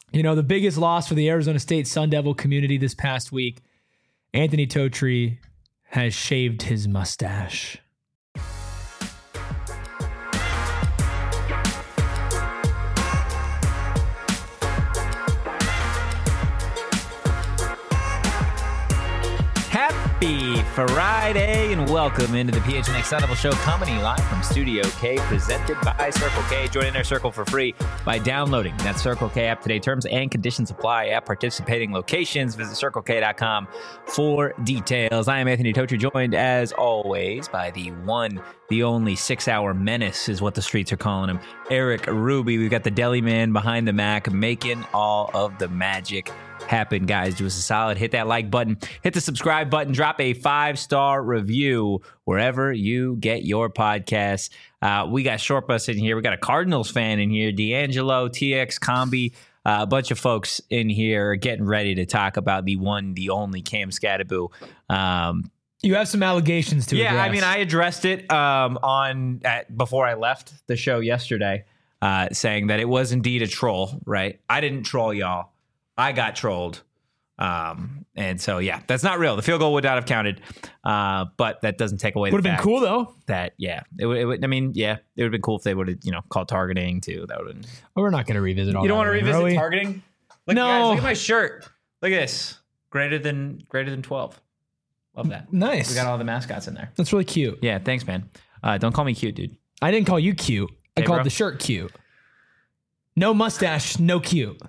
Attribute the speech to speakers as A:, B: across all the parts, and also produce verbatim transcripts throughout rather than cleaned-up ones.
A: You know, the biggest loss for the Arizona State Sun Devil community this past week, Anthony Totri has shaved his mustache.
B: Happy Friday and welcome into the P H N X Sun Devil Show, coming live from Studio K, presented by Circle K. Join Inner Circle for free by downloading that Circle K app today. Terms and conditions apply at participating locations. Visit circle k dot com for details. I am Anthony Totri, joined as always by the one, the only six-hour menace is what the streets are calling him, Eric Ruby. We've got the deli man behind the Mac making all of the magic happen. Guys, do us a solid, hit that like button, hit the subscribe button, drop a five-star review wherever you get your podcasts. Uh, we got Short Bus in here. We got a Cardinals fan in here, D'Angelo, T X Combi, uh, a bunch of folks in here getting ready to talk about the one, the only Cam Skattebo. Um,
A: You have some allegations to
B: yeah,
A: address.
B: I mean, I addressed it um, on at, before I left the show yesterday, uh, saying that it was indeed a troll, right? I didn't troll y'all. I got trolled. Um, and so, yeah, that's not real. The field goal would not have counted. Uh, but that doesn't take away
A: Would
B: the
A: have
B: fact
A: been cool, though.
B: that, yeah, it would, it would, I mean, yeah, it would have been cool if they would have, you know, called targeting too. That would have been.
A: Well, we're not going to revisit all
B: You
A: that.
B: don't want to
A: again,
B: revisit
A: are we?
B: targeting? Look,
A: No.
B: guys, look at my shirt. Look at this. Greater than, greater than twelve. Love that.
A: Nice.
B: We got all the mascots in there.
A: That's really cute.
B: Yeah, thanks, man. Uh, don't call me cute, dude.
A: I didn't call you cute. I
B: Hey,
A: called
B: bro.
A: the shirt cute. No mustache, no cute.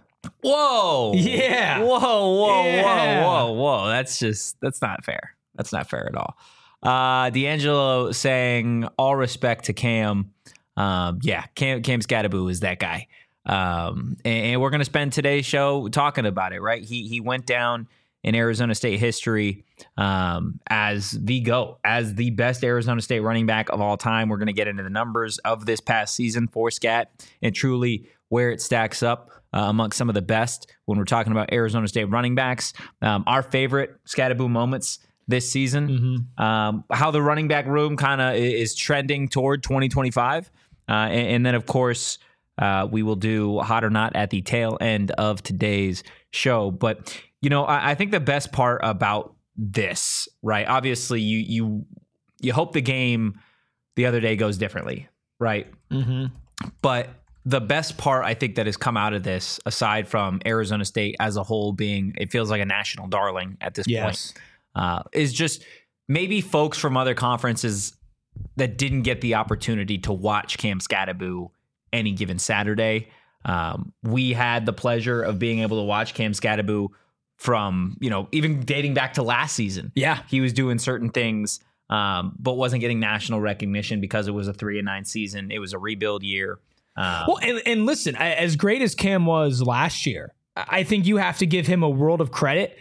B: Whoa.
A: Yeah.
B: Whoa, whoa,
A: Yeah.
B: whoa, whoa, whoa. That's just, that's not fair. That's not fair at all. Uh, D'Angelo saying all respect to Cam. Um, yeah, Cam, Cam Skattebo is that guy. Um, and, and we're going to spend today's show talking about it, right? He, he went down in Arizona State history um, as the GOAT, as the best Arizona State running back of all time. We're going to get into the numbers of this past season for Scat and truly where it stacks up uh, amongst some of the best when we're talking about Arizona State running backs. Um, our favorite Skattebo moments this season,
A: Mm-hmm.
B: um, how the running back room kind of is trending toward twenty twenty-five. Uh, and, and then, of course, uh, we will do Hot or Not at the tail end of today's show. But, you know, I, I think the best part about this, right, obviously you you you hope the game the other day goes differently, right?
A: Mm-hmm.
B: But the best part, I think, that has come out of this, aside from Arizona State as a whole being, it feels like a national darling at this
A: Yes.
B: point, uh, is just maybe folks from other conferences that didn't get the opportunity to watch Cam Skattebo any given Saturday. Um, we had the pleasure of being able to watch Cam Skattebo from, you know, even dating back to last season.
A: Yeah.
B: He was doing certain things, um, but wasn't getting national recognition because it was a three and nine season. It was a rebuild year. Um,
A: Well, and, and listen, I- as great as Cam was last year, I think you have to give him a world of credit.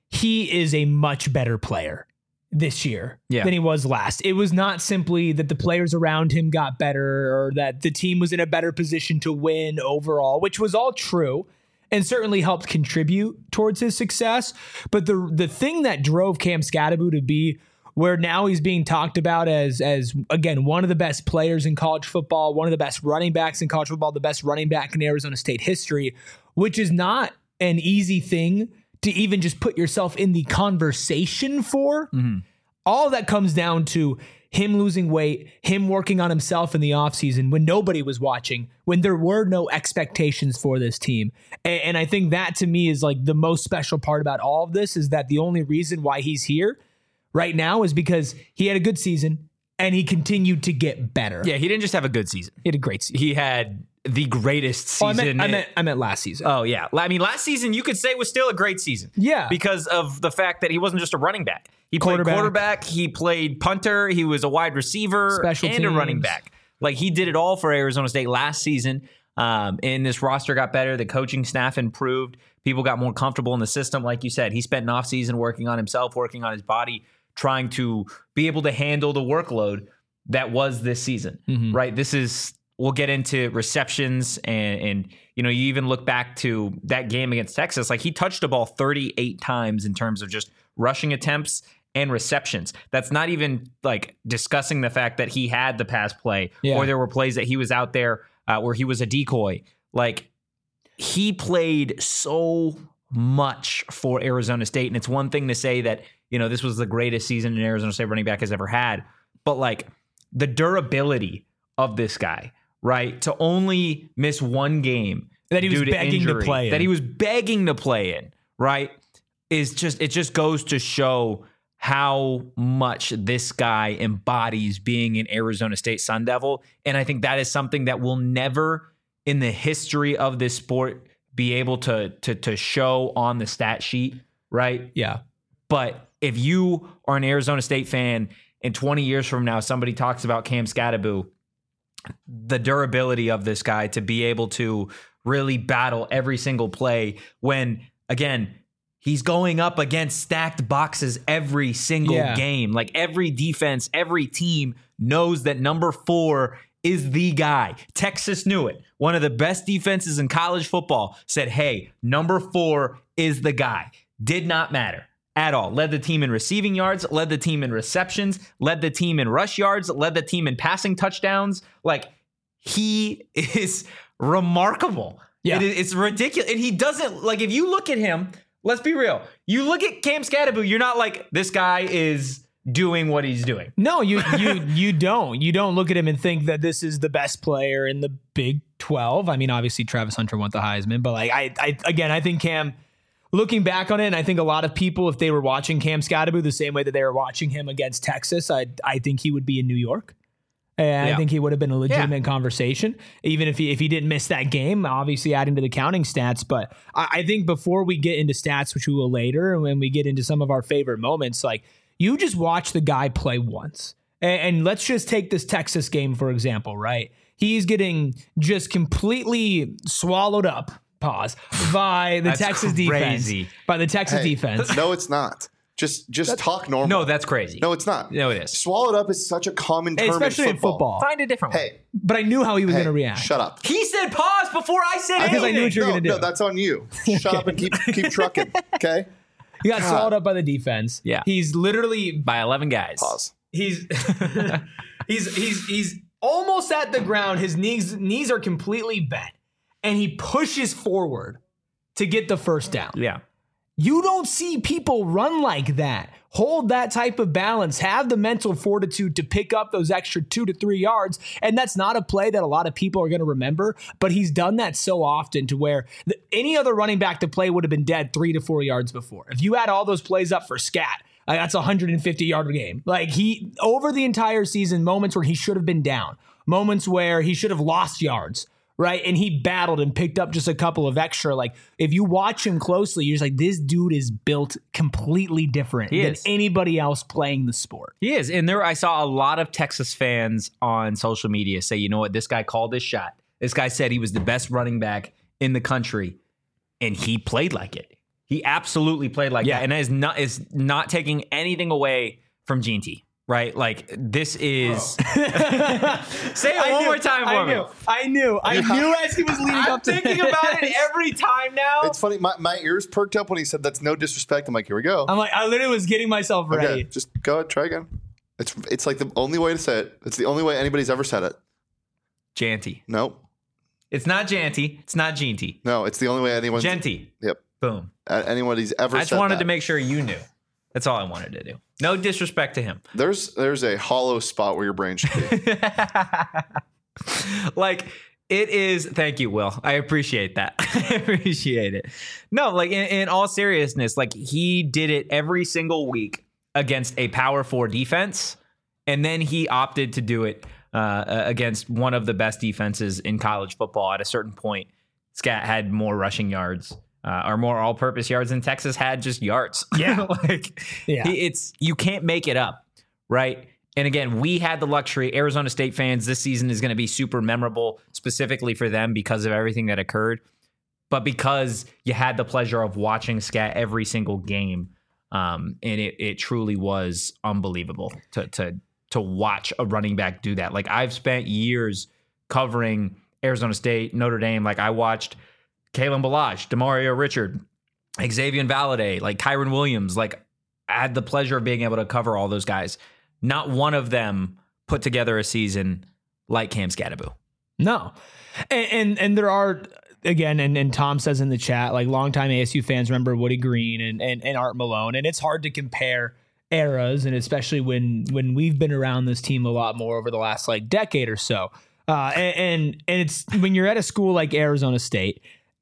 A: He is a much better player this year
B: Yeah.
A: than he was last. It was not simply that the players around him got better or that the team was in a better position to win overall, which was all true and certainly helped contribute towards his success. But the the thing that drove Cam Skattebo to be where now he's being talked about as, as again, one of the best players in college football, one of the best running backs in college football, the best running back in Arizona State history, which is not an easy thing to even just put yourself in the conversation for.
B: Mm-hmm.
A: All that comes down to him losing weight, him working on himself in the offseason when nobody was watching, when there were no expectations for this team. And, and I think that to me is like the most special part about all of this, is that the only reason why he's here right now is because he had a good season and he continued to get better.
B: yeah, he didn't just have a good season.
A: He had a great season.
B: He had the greatest
A: Oh, I,
B: season.
A: meant, I, meant, I meant last season.
B: Oh, yeah. I mean, last season you could say was still a great season.
A: Yeah.
B: Because of the fact that he wasn't just a running back. He played
A: Quarterback.
B: quarterback, he played punter, he was a wide receiver,
A: Special
B: and a running
A: teams.
B: back. Like, he did it all for Arizona State last season. Um, and this roster got better. The coaching staff improved. People got more comfortable in the system. Like you said, he spent an offseason working on himself, working on his body, trying to be able to handle the workload that was this season,
A: Mhm.
B: right? This is, we'll get into receptions and, and, you know, you even look back to that game against Texas, like he touched the ball thirty-eight times in terms of just rushing attempts and receptions. That's not even like discussing the fact that he had the pass play
A: Yeah.
B: or there were plays that he was out there uh, where he was a decoy. Like, he played so much for Arizona State. And it's one thing to say that, you know, this was the greatest season an Arizona State running back has ever had. But like the durability of this guy, right? To only miss one game
A: that he was
B: due to
A: begging
B: injury,
A: to play in.
B: that he was begging to play in, right? Is just, it just goes to show how much this guy embodies being an Arizona State Sun Devil. And I think that is something that will never in the history of this sport be able to, to, to show on the stat sheet, right?
A: Yeah.
B: But if you are an Arizona State fan and twenty years from now, somebody talks about Cam Skattebo, the durability of this guy to be able to really battle every single play when, again, he's going up against stacked boxes every single
A: Yeah.
B: game. Like every defense, every team knows that number four is the guy. Texas knew it. One of the best defenses in college football said, hey, number four is the guy. Did not matter at all. Led the team in receiving yards, led the team in receptions, led the team in rush yards, led the team in passing touchdowns. Like, he is remarkable.
A: Yeah.
B: It is, it's ridiculous. And he doesn't, like, if you look at him, let's be real. You look at Cam Skattebo, you're not like, this guy is doing what he's doing.
A: No, you you you don't. You don't look at him and think that this is the best player in the Big twelve. I mean, obviously Travis Hunter won the Heisman, but like I, I again, I think Cam, looking back on it, and I think a lot of people, if they were watching Cam Skattebo the same way that they were watching him against Texas, I I think he would be in New York. And
B: Yeah.
A: I think he would have been a legitimate
B: Yeah.
A: conversation, even if he if he didn't miss that game, obviously adding to the counting stats. But I, I think before we get into stats, which we will later, and when we get into some of our favorite moments, like you just watch the guy play once. And, and let's just take this Texas game, for example, right? He's getting just completely swallowed up, pause, by the
B: That's
A: Texas
B: crazy.
A: defense. By the Texas
C: Hey,
A: defense.
C: No, it's not. Just just talk normal.
B: No, that's crazy.
C: No, it's not.
B: No, it is.
C: Swallowed up is such a common term
A: Especially
C: in football.
B: Find a different one.
C: Hey,
A: But I knew how he was
C: hey,
A: going to react.
C: shut up.
B: He said pause before I said
A: Because I
B: anything.
A: knew what you were
C: No,
A: gonna do.
C: no, that's on you. Shut up and keep keep trucking. Okay.
A: He got
C: God.
A: swallowed up by the defense.
B: Yeah.
A: He's literally
B: By eleven guys.
C: Pause.
A: He's he's he's he's almost at the ground. His knees knees are completely bent, and he pushes forward to get the first down.
B: Yeah.
A: You don't see people run like that. Hold that type of balance. Have the mental fortitude to pick up those extra two to three yards. And that's not a play that a lot of people are going to remember, but he's done that so often to where the, any other running back to play would have been dead three to four yards before. If you add all those plays up for Scat, like that's a one hundred fifty yard game. Like he, over the entire season, moments where he should have been down, moments where he should have lost yards. Right. And he battled and picked up just a couple of extra. Like, if you watch him closely, you're just like, this dude is built completely different
B: He
A: than
B: is.
A: anybody else playing the sport.
B: He is. And there I saw a lot of Texas fans on social media say, you know what, this guy called his shot. This guy said he was the best running back in the country. And he played like it. He absolutely played like
A: Yeah.
B: that. And that is not is not taking anything away from Gene T. Right? Like, this is say it
A: I
B: one
A: knew,
B: more time for
A: I
B: me.
A: knew, I knew. I knew as he was leading
B: I'm
A: up to
B: thinking
A: this.
B: about it every time now.
C: It's funny. My, my ears perked up when he said that's no disrespect. I'm like, here we go.
A: I'm like, I literally was getting myself ready.
C: Okay, just go ahead, try again. It's it's like the only way to say it. It's the only way anybody's ever said it.
B: Janty.
C: Nope.
B: It's not Janty. It's not Genty.
C: No, it's the only way anyone's
B: Genty.
C: Yep.
B: Boom.
C: uh, anybody's ever
B: I
C: said
B: just wanted
C: that.
B: to make sure you knew. That's all I wanted to do. No disrespect to him.
C: There's there's a hollow spot where your brain should be.
B: Like, it is. Thank you, Will. I appreciate that. I appreciate it. No, like, in, in all seriousness, like, he did it every single week against a power four defense. And then he opted to do it uh, against one of the best defenses in college football. At a certain point, Scat had more rushing yards. Uh, or more all-purpose yards than Texas had just yards.
A: Yeah.
B: like
A: Yeah.
B: he- it's you can't make it up, right? And again, we had the luxury. Arizona State fans, this season is going to be super memorable, specifically for them because of everything that occurred. But because you had the pleasure of watching Scat every single game, um, and it it truly was unbelievable to to to watch a running back do that. Like, I've spent years covering Arizona State, Notre Dame. Like, I watched Kalen Ballage, Demario Richard, Xavier Valade, like Kyron Williams. Like, I had the pleasure of being able to cover all those guys. Not one of them put together a season like Cam Skattebo.
A: No. And, and and there are again, and, and Tom says in the chat, like longtime A S U fans remember Woody Green and, and, and Art Malone, and it's hard to compare eras, and especially when when we've been around this team a lot more over the last like decade or so. Uh, and, and and it's when you're at a school like Arizona State,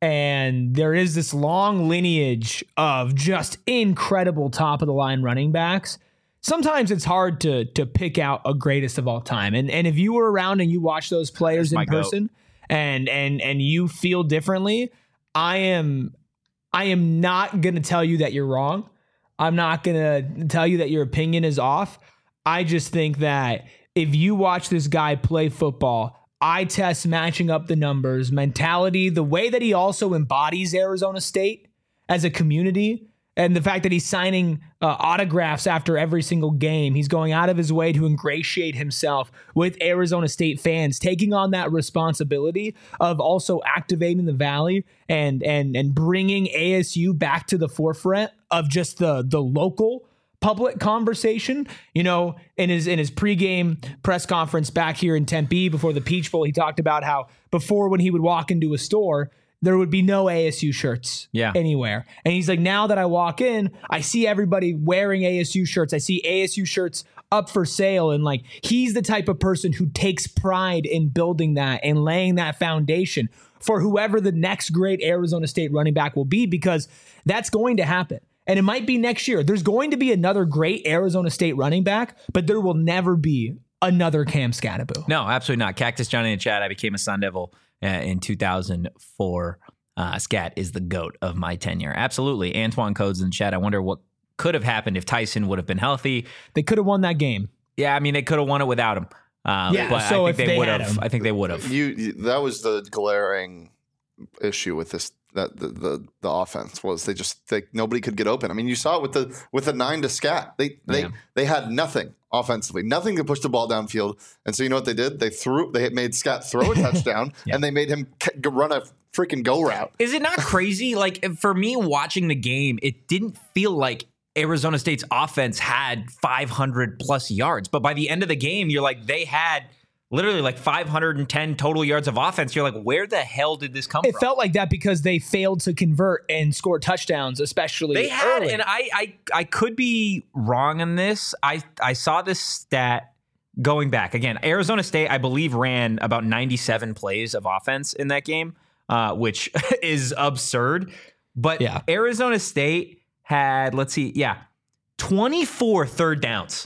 A: and there is this long lineage of just incredible top of the line running backs. Sometimes it's hard to to pick out a greatest of all time. And and if you were around and you watch those players in person goat. and and and you feel differently, I am I am not going to tell you that you're wrong. I'm not going to tell you that your opinion is off. I just think that if you watch this guy play football, eye test, matching up the numbers, mentality, the way that he also embodies Arizona State as a community, and the fact that he's signing uh, autographs after every single game, he's going out of his way to ingratiate himself with Arizona State fans, taking on that responsibility of also activating the Valley and and and bringing A S U back to the forefront of just the the local public conversation. You know, in his in his pregame press conference back here in Tempe before the Peach Bowl, he talked about how before when he would walk into a store, there would be no A S U shirts yeah. anywhere. And he's like, now that I walk in, I see everybody wearing A S U shirts. I see A S U shirts up for sale. And like, he's the type of person who takes pride in building that and laying that foundation for whoever the next great Arizona State running back will be, because that's going to happen. And it might be next year. There's going to be another great Arizona State running back, but there will never be another Cam Scatterbo.
B: No, absolutely not. Cactus Johnny in the chat, I became a Sun Devil Uh, in two thousand four. Uh, Scat is the GOAT of my tenure. Absolutely. Antoine Codes in the chat. I wonder what could have happened if Tyson would have been healthy.
A: They could have won that game.
B: Yeah, I mean, they could have won it without him. Uh,
A: yeah,
B: but
A: so
B: I
A: if
B: think they,
A: they
B: would
A: had
B: have.
A: him.
B: I think they would have.
C: You, you that was the glaring issue with this. That the, the the offense was they just they, nobody could get open. I mean, you saw it with the with the nine to Scat. They they
B: Yeah.
C: they had nothing offensively, nothing to push the ball downfield. And so you know what they did? They threw. They made Scat throw a touchdown, yeah. and they made him run a freaking go route.
B: Is it not crazy? Like, for me watching the game, it didn't feel like Arizona State's offense had five hundred plus yards, but by the end of the game, you're like, they had literally like five hundred ten total yards of offense. You're like, where the hell did this come
A: it
B: from?
A: It felt like that because they failed to convert and score touchdowns, especially
B: They had,
A: early.
B: and I, I I could be wrong on this. I, I saw this stat going back. Again, Arizona State, I believe, ran about ninety-seven plays of offense in that game, uh, which is absurd. But
A: yeah.
B: Arizona State had, let's see, yeah, twenty-four third downs.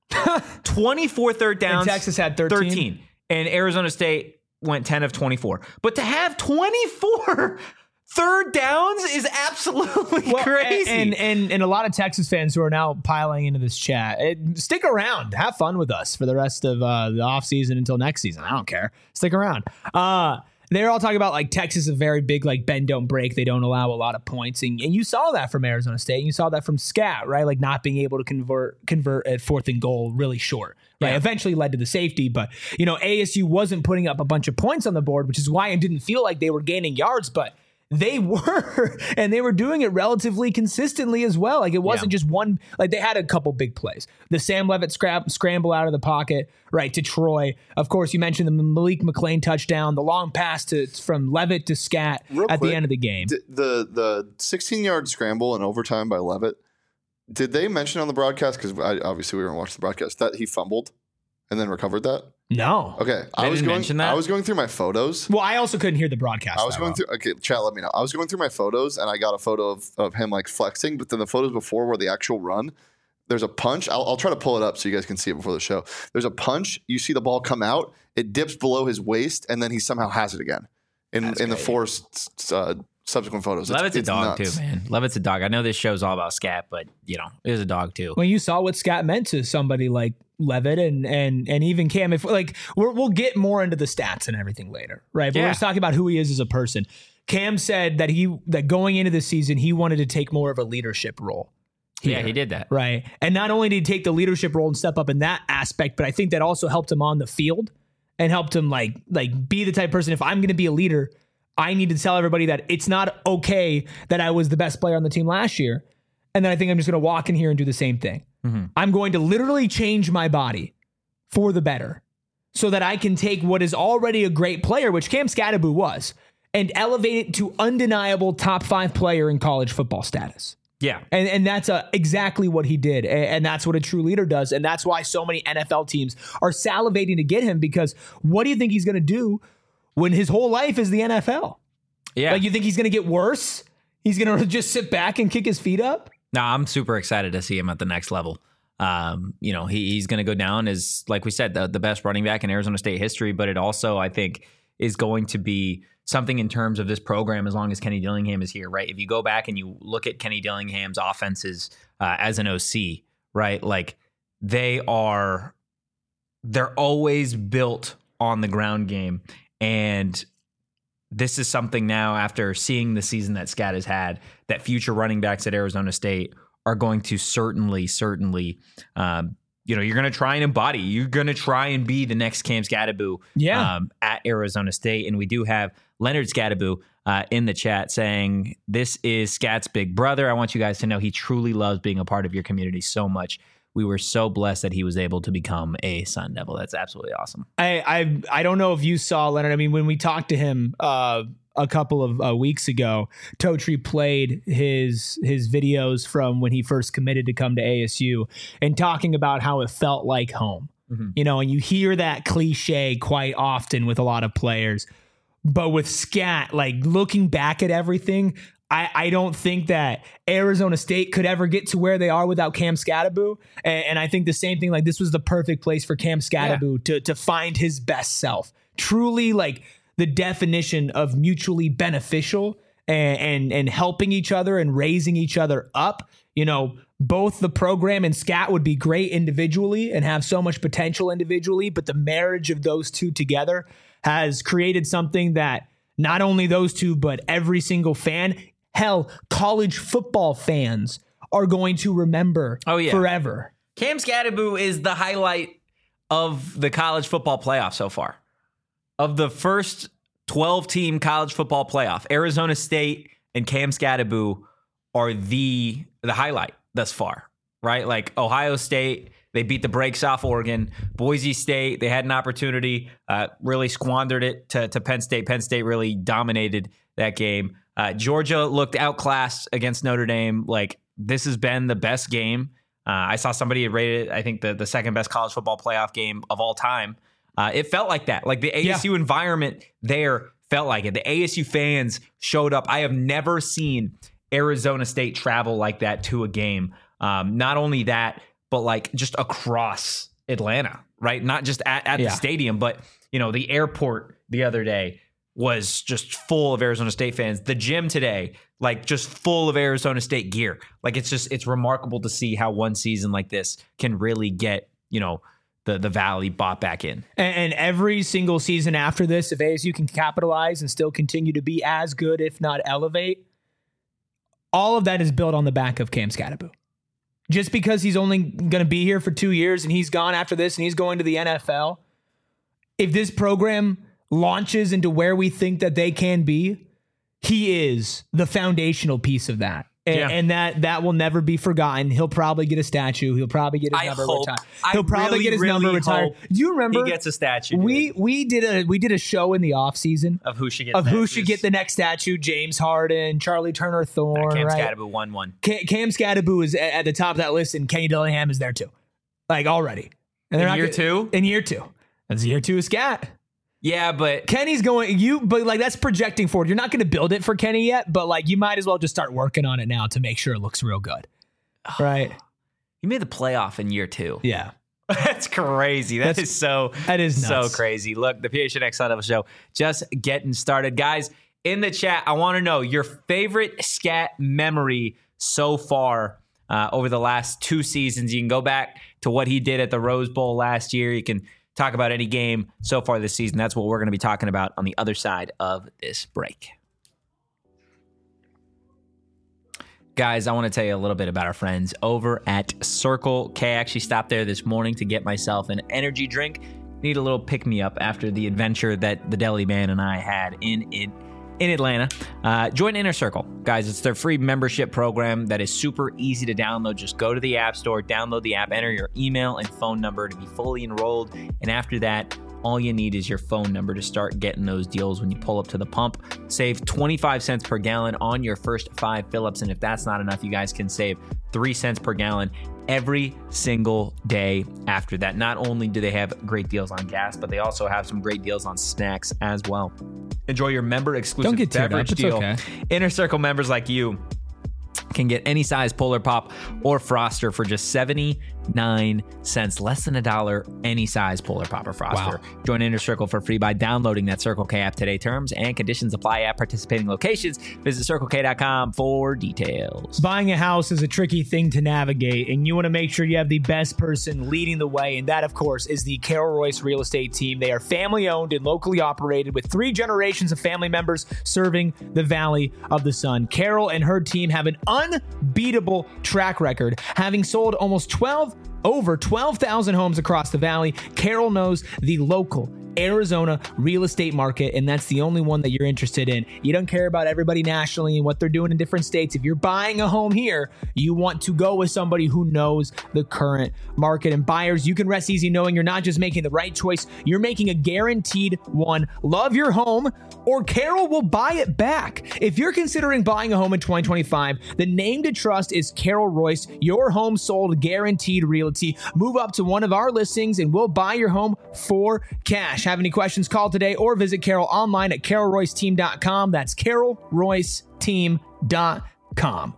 B: twenty-four third downs.
A: And Texas had thirteen.
B: thirteen. And Arizona State went ten of twenty-four. But to have twenty-four third downs is absolutely
A: well,
B: crazy.
A: And, and and a lot of Texas fans who are now piling into this chat, it, stick around. Have fun with us for the rest of uh, the offseason until next season. I don't care. Stick around. Uh, they're all talking about like Texas is a very big like bend don't break. They don't allow a lot of points, and, and you saw that from Arizona State. And you saw that from Scat, right? Like not being able to convert convert at fourth and goal really short. Right, yeah. Eventually led to the safety, but you know A S U wasn't putting up a bunch of points on the board, which is why it didn't feel like they were gaining yards, but they were, and they were doing it relatively consistently as well. Like it wasn't yeah. just one, like they had a couple big plays. The Sam Levitt scrap, scramble out of the pocket, right, to Troy. Of course, you mentioned the Malik McClain touchdown, the long pass to from Levitt to Scat
C: Real
A: at
C: quick,
A: the end of the game.
C: D- the the sixteen-yard scramble in overtime by Levitt, did they mention on the broadcast, because obviously we weren't watching the broadcast, that he fumbled and then recovered that?
A: No.
C: Okay.
B: They
C: I was
B: didn't
C: going
B: mention that?
C: I was going through my photos.
A: Well, I also couldn't hear the broadcast.
C: I was going
A: well.
C: through okay, chat, let me know. I was going through my photos and I got a photo of, of him like flexing, but then the photos before were the actual run. There's a punch. I'll, I'll try to pull it up so you guys can see it before the show. There's a punch. You see the ball come out. It dips below his waist, and then he somehow has it again in, in the four uh, subsequent photos.
B: Levitt's
C: it's,
B: a dog
C: nuts.
B: too, man. Levitt's a dog. I know this show's all about Scat, but you know, it is a dog too.
A: When you saw what Scat meant to somebody like Levitt and and and even Cam, if like we're, we'll get more into the stats and everything later, right? But
B: Yeah.
A: we're just talking about who he is as a person. Cam said that he that going into the season he wanted to take more of a leadership role.
B: Yeah,
A: here,
B: he did that.
A: right? And not only did he take the leadership role and step up in that aspect, but I think that also helped him on the field and helped him like like be the type of person. If I'm going to be a leader, I need to tell everybody that it's not okay that I was the best player on the team last year, and then I think I'm just going to walk in here and do the same thing.
B: Mm-hmm.
A: I'm going to literally change my body for the better so that I can take what is already a great player, which Cam Scatterbo was, and elevate it to undeniable top five player in college football status.
B: Yeah.
A: And and that's uh, exactly what he did. And, and that's what a true leader does. And that's why so many N F L teams are salivating to get him, because what do you think he's going to do when his whole life is the N F L?
B: Yeah.
A: Like, you think he's going to get worse? He's going to just sit back and kick his feet up?
B: No, I'm super excited to see him at the next level. Um, you know, he, he's going to go down as, like we said, the, the best running back in Arizona State history. But it also, I think, is going to be something in terms of this program as long as Kenny Dillingham is here, right? If you go back and you look at Kenny Dillingham's offenses uh, as an O C, right? Like, they are, they're always built on the ground game. And this is something now, after seeing the season that Scat has had, that future running backs at Arizona State are going to certainly, certainly, um, you know, you're going to try and embody. You're going to try and be the next Cam Skattebo
A: Yeah.
B: um, at Arizona State. And we do have Leonard Skattebo uh, in the chat saying, this is Scat's big brother. I want you guys to know he truly loves being a part of your community so much. We were so blessed that he was able to become a Sun Devil. That's absolutely awesome.
A: I, I I don't know if you saw, Leonard. I mean, when we talked to him uh, a couple of uh, weeks ago, Totri played his his videos from when he first committed to come to A S U and talking about how it felt like home. Mm-hmm. You know, and you hear that cliche quite often with a lot of players. But with Scat, like, looking back at everything, I, I don't think that Arizona State could ever get to where they are without Cam Skattebo. And, and I think the same thing, like, this was the perfect place for Cam Skattebo yeah. to, to find his best self. Truly, like, the definition of mutually beneficial and, and, and helping each other and raising each other up. You know, both the program and Scat would be great individually and have so much potential individually, but the marriage of those two together has created something that not only those two, but every single fan, hell, college football fans are going to remember
B: oh, yeah.
A: forever.
B: Cam Skattebo is the highlight of the college football playoff so far. Of the first twelve-team college football playoff, Arizona State and Cam Skattebo are the the highlight thus far, right? Like, Ohio State, they beat the brakes off Oregon. Boise State, they had an opportunity, uh, really squandered it to, to Penn State. Penn State really dominated that game. Uh, Georgia looked outclassed against Notre Dame. Like, this has been the best game. Uh, I saw somebody had rated it, I think, the, the second best college football playoff game of all time. Uh, it felt like that. Like, the A S U yeah. environment there felt like it. The A S U fans showed up. I have never seen Arizona State travel like that to a game. Um, not only that, but like just across Atlanta, right? Not just at, at yeah. the stadium, but, you know, the airport the other day was just full of Arizona State fans. The gym today, like, just full of Arizona State gear. Like, it's just, it's remarkable to see how one season like this can really get, you know, the, the Valley bought back in.
A: And, and every single season after this, if A S U can capitalize and still continue to be as good, if not elevate, all of that is built on the back of Cam Skattebo. Just because he's only going to be here for two years and he's gone after this and he's going to the N F L, if this program launches into where we think that they can be, he is the foundational piece of that. And,
B: yeah.
A: and that that will never be forgotten. He'll probably get a statue. He'll probably get his
B: I
A: number
B: hope,
A: retired.
B: I
A: He'll probably
B: really,
A: get his
B: really
A: number retired. Do you remember?
B: He gets a statue.
A: We
B: dude.
A: we did a we did a show in the off season
B: of who should get
A: of
B: statues.
A: who should get the next statue. James Harden, Charlie Turner Thorne,
B: uh, Cam
A: right?
B: Skattebo won one.
A: Cam, Cam Skattebo is at the top of that list, and Kenny Dillingham is there too, like already. And
B: in
A: they're
B: year
A: not,
B: two.
A: In year two, that's year two of Scat.
B: Yeah, but
A: Kenny's going you, but like that's projecting forward. You're not going to build it for Kenny yet, but like you might as well just start working on it now to make sure it looks real good, right?
B: You made the playoff in year two.
A: Yeah,
B: that's crazy. That
A: that's,
B: is so
A: that is nuts.
B: so crazy. Look, the P H N X Sun Devil Show just getting started, guys. In the chat, I want to know your favorite Scat memory so far uh, over the last two seasons. You can go back to what he did at the Rose Bowl last year. You can talk about any game so far this season. That's what we're going to be talking about on the other side of this break. Guys, I want to tell you a little bit about our friends over at Circle K. I actually stopped there this morning to get myself an energy drink. Need a little pick-me-up after the adventure that the Deli Man and I had in it. in Atlanta. Uh, join Inner Circle. Guys, it's their free membership program that is super easy to download. Just go to the App Store, download the app, enter your email and phone number to be fully enrolled. And after that, All you need is your phone number to start getting those deals when you pull up to the pump. Save twenty-five cents per gallon on your first five fill-ups. And if that's not enough, you guys can save three cents per gallon every single day after that. Not only do they have great deals on gas, but they also have some great deals on snacks as well. Enjoy your member exclusive
A: Don't get teared
B: beverage
A: up. It's
B: deal.
A: okay.
B: Inner Circle members like you can get any size Polar Pop or Froster for just seventy-nine cents, less than a dollar, any size Polar Pop or Froster.
A: Wow.
B: Join Inner Circle for free by downloading that Circle K app today. Terms and conditions apply at participating locations. Visit circle k dot com for details.
A: Buying a house is a tricky thing to navigate, and you want to make sure you have the best person leading the way, and that, of course, is the Carol Royce Real Estate Team. They are family-owned and locally operated with three generations of family members serving the Valley of the Sun. Carol and her team have an unbeatable track record, having sold almost twelve over twelve thousand homes across the valley. Carol knows the local Arizona real estate market, and that's the only one that you're interested in. You don't care about everybody nationally and what they're doing in different states. If you're buying a home here, you want to go with somebody who knows the current market. And buyers, you can rest easy knowing you're not just making the right choice, you're making a guaranteed one. Love your home, or Carol will buy it back. If you're considering buying a home in twenty twenty-five, the name to trust is Carol Royce, your home sold guaranteed realty. Move up to one of our listings and we'll buy your home for cash. Have any questions, call today or visit Carol online at carol royce team dot com. That's carol royce team dot com.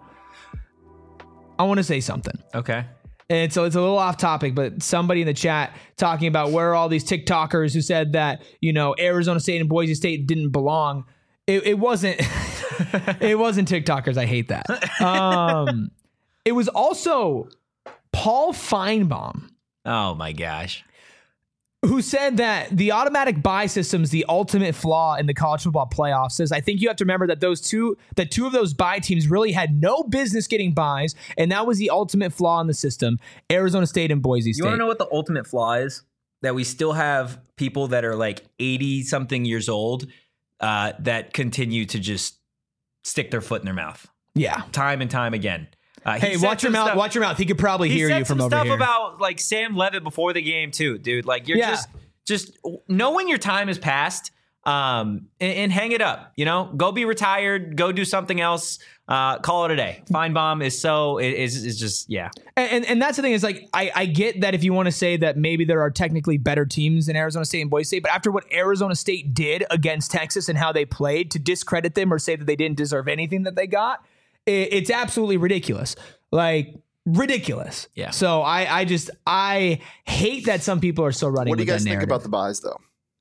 A: I want to say something.
B: Okay.
A: And so it's a little off topic, but somebody in the chat talking about where all these TikTokers who said that, you know, Arizona State and Boise State didn't belong. It, it wasn't, it wasn't TikTokers. I hate that. Um, it was also Paul Feinbaum.
B: Oh my gosh.
A: Who said that the automatic bye system is the ultimate flaw in the college football playoffs. Says, I think you have to remember that those two, that two of those bye teams really had no business getting byes, and that was the ultimate flaw in the system. Arizona State and Boise State.
B: You want to know what the ultimate flaw is? That we still have people that are like eighty something years old uh, that continue to just stick their foot in their mouth.
A: Yeah.
B: Time and time again. Uh,
A: hey, watch your mouth.
B: Stuff,
A: watch your mouth. He could probably hear you from over
B: here. He said some
A: here.
B: stuff about like Sam Levitt before the game too, dude. Like you're
A: yeah.
B: just, just know when your time has passed, um, and, and hang it up. You know, go be retired. Go do something else. Uh, call it a day. Feinbaum is so is is just yeah.
A: And, and and that's the thing is like I I get that if you want to say that maybe there are technically better teams in Arizona State and Boise State, but after what Arizona State did against Texas and how they played, to discredit them or say that they didn't deserve anything that they got, it, it's absolutely ridiculous. Like ridiculous.
B: Yeah.
A: So I, I just I hate that some people are still running.
C: What do you
A: with
C: guys
A: that
C: think
A: narrative.
C: about the buys, though?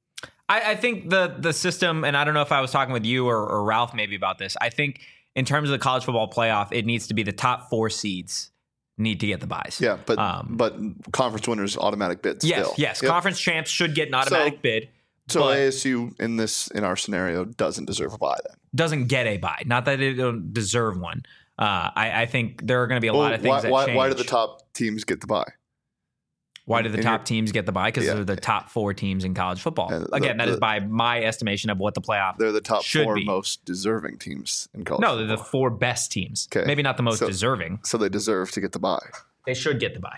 B: I, I think the the system, and I don't know if I was talking with you or, or Ralph maybe about this. I think in terms of the college football playoff, it needs to be the top four seeds need to get the buys.
C: Yeah, but
B: um,
C: but conference winners automatic bids.
B: Yes,
C: still.
B: yes.
C: Yep.
B: Conference champs should get an automatic
C: So-
B: bid.
C: So
B: but
C: A S U in this in our scenario doesn't deserve a buy then.
B: doesn't get a buy. Not that they don't deserve one. Uh, I, I think there are going to be a
C: Well,
B: lot of things
C: why,
B: that
C: why,
B: change.
C: why do the top teams get the buy?
B: Why do the
C: in
B: top
C: your-
B: teams get the buy? Because
C: Yeah.
B: they're the top four teams in college football.
C: Yeah, the-
B: Again, that is
C: the-
B: by my estimation of what the playoff.
C: They're the top
B: should
C: four
B: be.
C: most deserving teams in college.
B: No, they're the
C: football.
B: four best teams.
C: Okay.
B: Maybe not the most
C: So-
B: deserving.
C: So they deserve to get the buy.
B: They should get the buy,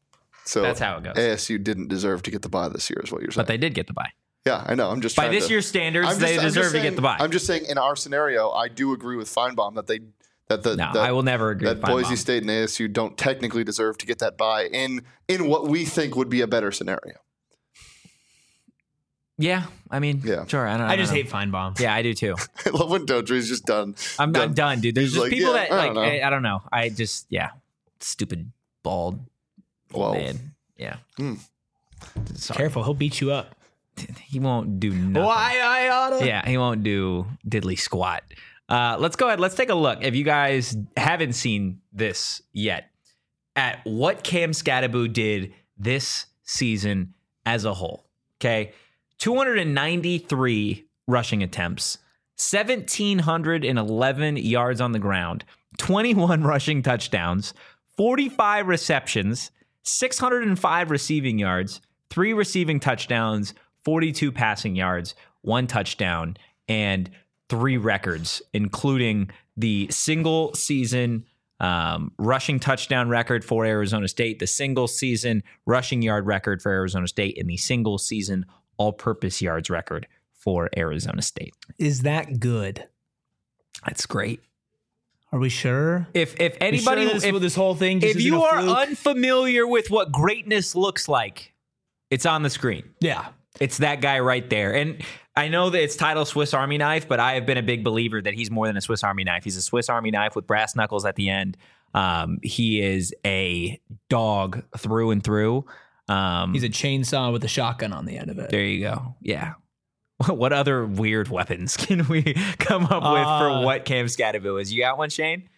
C: So
B: That's how it goes.
C: A S U didn't deserve to get the buy this year, is what you're saying.
B: but they did get the buy.
C: yeah, I know. I'm just
B: By
C: trying
B: this
C: to,
B: year's standards,
C: I'm
B: they
C: just- I'm just
B: deserve to
C: saying-
B: get the buy.
C: I'm just saying, in our scenario, I do agree with Feinbaum that they that the
B: no,
C: that,
B: I will never agree
C: that
B: with
C: Boise
B: Feinbaum.
C: State and A S U don't technically deserve to get that buy in in what we think would be a better scenario.
B: Yeah, I mean,
C: Yeah.
B: sure. I don't.
A: I just
B: don't know.
A: hate Feinbaum.
B: Yeah, I do too.
C: I love when Dodry's just done.
B: I'm, I'm done, dude. There's
C: He's
B: just
C: like,
B: people
C: yeah,
B: that
C: I
B: like
C: don't know.
B: I, I don't know. I just yeah, stupid bald
C: Well,
B: man. Yeah.
C: Hmm.
B: Sorry.
A: Careful, he'll beat you up.
B: He won't do nothing.
A: Why I oughta?
B: Yeah, he won't do diddly squat. Uh, let's go ahead. Let's take a look. If you guys haven't seen this yet, at what Cam Scatterbo did this season as a whole. Okay, two hundred ninety-three rushing attempts, one thousand seven hundred eleven yards on the ground, twenty-one rushing touchdowns, forty-five receptions, six hundred five receiving yards, three receiving touchdowns, forty-two passing yards, one touchdown, and three records, including the single season um, rushing touchdown record for Arizona State, the single season rushing yard record for Arizona State, and the single season all-purpose yards record for Arizona State.
A: Is that good?
B: That's great.
A: Are we sure?
B: If if
A: We sure
B: anybody,
A: this,
B: if,
A: this whole thing, just
B: if
A: isn't
B: you
A: a
B: are
A: fluke?
B: unfamiliar with what greatness looks like, it's on the screen.
A: yeah,
B: It's that guy right there. And I know that it's titled Swiss Army Knife, but I have been a big believer that he's more than a Swiss Army knife. He's a Swiss Army knife with brass knuckles at the end. Um, he is a dog through and through. Um,
A: he's a chainsaw with a shotgun on the end of it.
B: there you go. Yeah. What other weird weapons can we come up with
A: Uh,
B: for what Cam Scatterville is? You got one, Shane?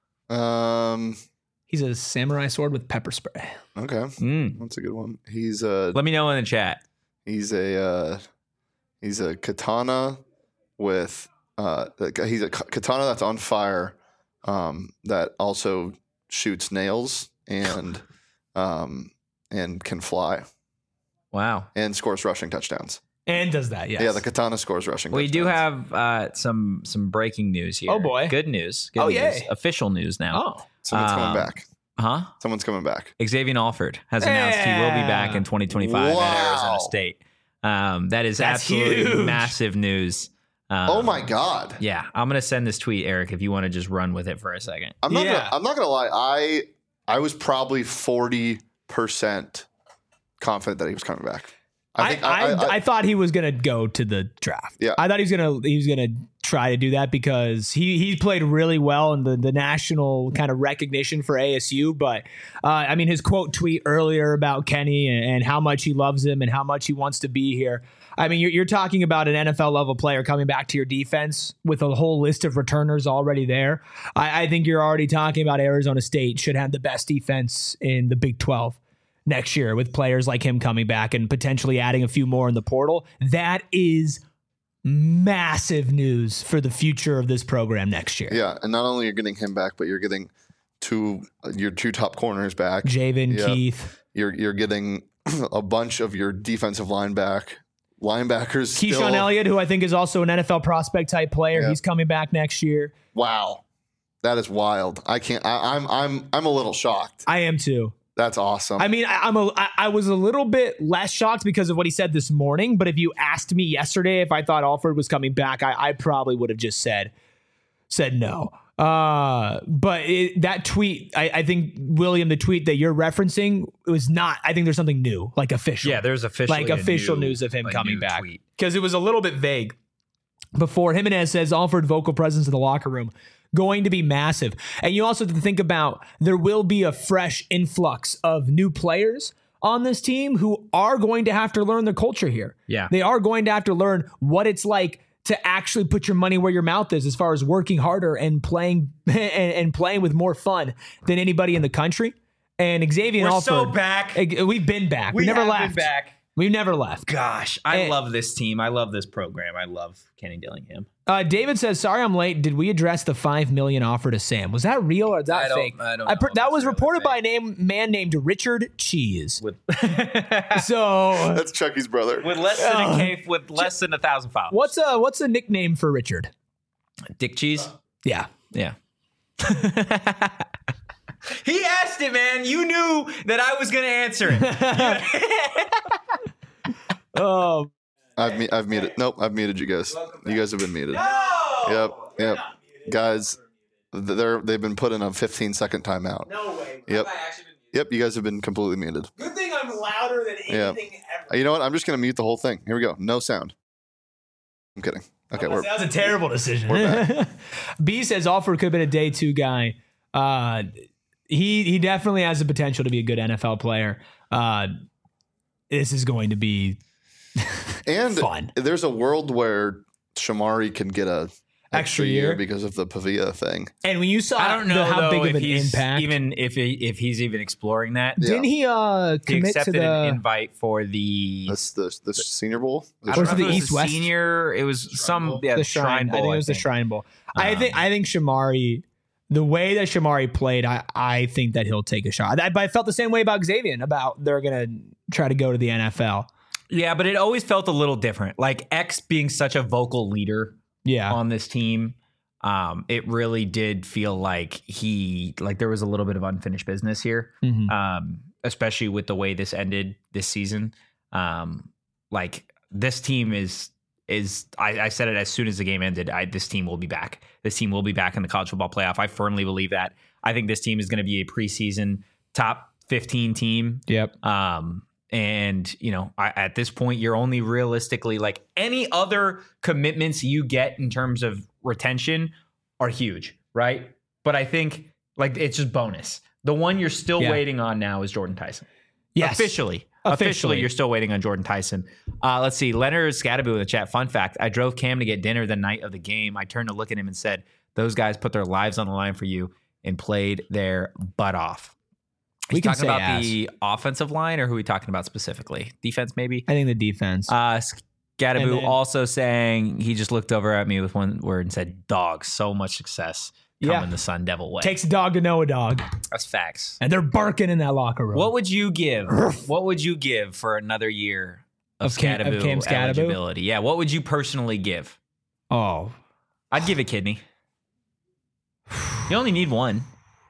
C: Um.
A: He's a samurai sword with pepper spray.
C: Okay,
B: Mm.
C: that's a good one. He's a
B: Let me know in the chat.
C: he's a uh, he's a katana with uh he's a k- katana that's on fire, um that also shoots nails and um and can fly
B: Wow.
C: and scores rushing touchdowns.
A: And does that, yes.
C: Yeah, the katana scores rushing.
B: We do
C: touchdowns.
B: have uh, some some breaking news here.
A: Oh, boy.
B: Good news. Good
A: Oh,
B: news.
A: yay.
B: Official news now.
A: Oh.
C: Someone's
B: um,
C: coming back.
B: Huh?
C: Someone's coming back.
B: Xavier Alford has announced he will be back in twenty twenty-five
C: Wow.
B: at Arizona State. Um, that is
A: That's
B: absolutely
A: huge.
B: massive news. Um,
C: Oh my god!
B: Yeah, I'm gonna send this tweet, Eric, if you want to just run with it for a second.
C: I'm not.
A: Yeah.
C: Gonna, I'm not gonna lie. I I was probably forty percent confident that he was coming back.
A: I,
C: think
A: I, I, thought he was gonna go to the draft.
C: Yeah.
A: I thought he was gonna he was gonna try to do that because he he played really well in the the national kind of recognition for A S U. But uh, I mean, his quote tweet earlier about Kenny and, and how much he loves him and how much he wants to be here. I mean, you're, you're talking about an N F L level player coming back to your defense with a whole list of returners already there. I, I think you're already talking about Arizona State should have the best defense in the Big twelve next year with players like him coming back and potentially adding a few more in the portal. That is massive news for the future of this program next year.
C: yeah, and not only you're getting him back, but you're getting two your two top corners back.
A: Javen,
C: Yeah.
A: Keith,
C: You're you're getting a bunch of your defensive line back linebackers.
A: Keyshawn
C: still.
A: Elliott, who I think is also an N F L prospect type player.
C: Yeah.
A: He's coming back next year.
C: Wow, that is wild. I can't. I, I'm I'm I'm a little shocked.
A: I am too.
C: That's awesome.
A: I mean, I, I'm a, I, I was a little bit less shocked because of what he said this morning. But if you asked me yesterday if I thought Alford was coming back, I, I probably would have just said said no. Uh, but it, that tweet, I, I think William, the tweet that you're referencing, it was not. I think there's something new, like official.
B: Yeah, there's officially
A: like
B: a
A: official
B: new-
A: news of him
B: a
A: coming
B: new
A: back
B: tweet.
A: because it was a little bit vague. Before Jimenez says Alford vocal presence in the locker room going to be massive, and you also have to think about there will be a fresh influx of new players on this team who are going to have to learn the culture here.
B: Yeah.
A: They are going to have to learn what it's like to actually put your money where your mouth is as far as working harder and playing and, and playing with more fun than anybody in the country. And Xavier
B: We're
A: Alford,
B: so back.
A: eh, We've been back. We,
B: We
A: never
B: have been
A: left.
B: back.
A: We've never left.
B: Gosh, I
A: And-
B: love this team. I love this program. I love Kenny Dillingham.
A: Uh, David says, "Sorry, I'm late. Did we address the five million offer to Sam? Was that real or is that
B: I don't-
A: fake?
B: I don't
A: per-
B: know if
A: that
B: that's
A: was
B: real or
A: reported
B: fake.
A: by a name man named Richard Cheese.
B: With
A: So,
C: That's Chucky's brother.
B: with less than
A: Uh,
B: a K, with less than a thousand followers.
A: what's a what's a nickname for Richard?
B: Dick Cheese?
A: Yeah,
B: Yeah. He asked it, man. You knew that I was going to answer it.
A: oh,
C: I've mu- I've muted. Nope, I've muted you guys. You guys have been muted. Yep, yep. Guys, th- they're they've been put in a fifteen second timeout.
A: no way.
C: Yep. Yep, you guys have been completely muted.
A: Good thing I'm louder than
C: Yeah.
A: anything
C: Uh, You know what? I'm just gonna mute the whole thing. Here we go. No sound. I'm kidding. Okay, we're
A: that was a terrible decision.
C: we're
A: B says Alford could have been a day two guy. Uh, he he definitely has the potential to be a good N F L player. Uh, this is going to be
C: and
A: fun.
C: there's a world where Shamari can get a
A: Extra year.
C: because of the Pavia thing.
A: And when you saw
B: I don't
A: the-
B: know
A: how
B: though,
A: big
B: if
A: of an
B: he's
A: impact,
B: even if he, if he's even exploring that.
C: Yeah.
A: didn't he uh,
B: He
A: commit to
B: accepted an
A: the?
B: invite for the.
C: That's the the Senior Bowl. The
B: I don't
A: Was
B: know
A: it
B: if
A: the
B: was
A: East-West?
B: Senior. It was some
C: Bowl?
B: yeah,
A: the Shrine.
B: Bowl,
A: I think it was the Shrine Bowl. I
B: Um,
A: think I think Shamari, the way that Shamari played, I, I think that he'll take a shot. I, but I felt the same way about Xavier about they're gonna try to go to the N F L.
B: Yeah, but it always felt a little different. Like X being such a vocal leader
A: Yeah,
B: on this team, um, it really did feel like he like there was a little bit of unfinished business here.
A: Mhm.
B: Um, especially with the way this ended this season. Um, like this team is is I, I said it as soon as the game ended. I, this team will be back. This team will be back in the college football playoff. I firmly believe that. I think this team is going to be a preseason top fifteen team.
A: Yep.
B: Um, and you know, I, at this point, you're only realistically like any other commitments you get in terms of retention are huge, right? But I think like it's just bonus. The one you're still
A: Yeah.
B: waiting on now is Jordan Tyson.
A: Yes.
B: Officially.
A: Officially.
B: Officially, you're still waiting on Jordan Tyson. Uh, let's see. Leonard Scadaboo in the chat. Fun fact. I drove Cam to get dinner the night of the game. I turned to look at him and said, those guys put their lives on the line for you and played their butt off. Are
A: We
B: you
A: can
B: talking
A: say
B: about
A: ass.
B: the offensive line, or who are we talking about specifically? Defense, maybe?
A: I think the defense.
B: Uh,
A: And
B: Scadaboo
A: then-
B: also saying he just looked over at me with one word and said, dog. So much success coming
A: Yeah.
B: the Sun Devil way.
A: Takes a dog to know a dog.
B: That's facts.
A: And they're barking in that locker room.
B: What would you give? What would you give for another year of,
A: Of Cam- of
B: Scadaboo
A: Cam Scadaboo?
B: eligibility? Yeah, what would you personally give?
A: Oh.
B: I'd give a kidney. You only need one.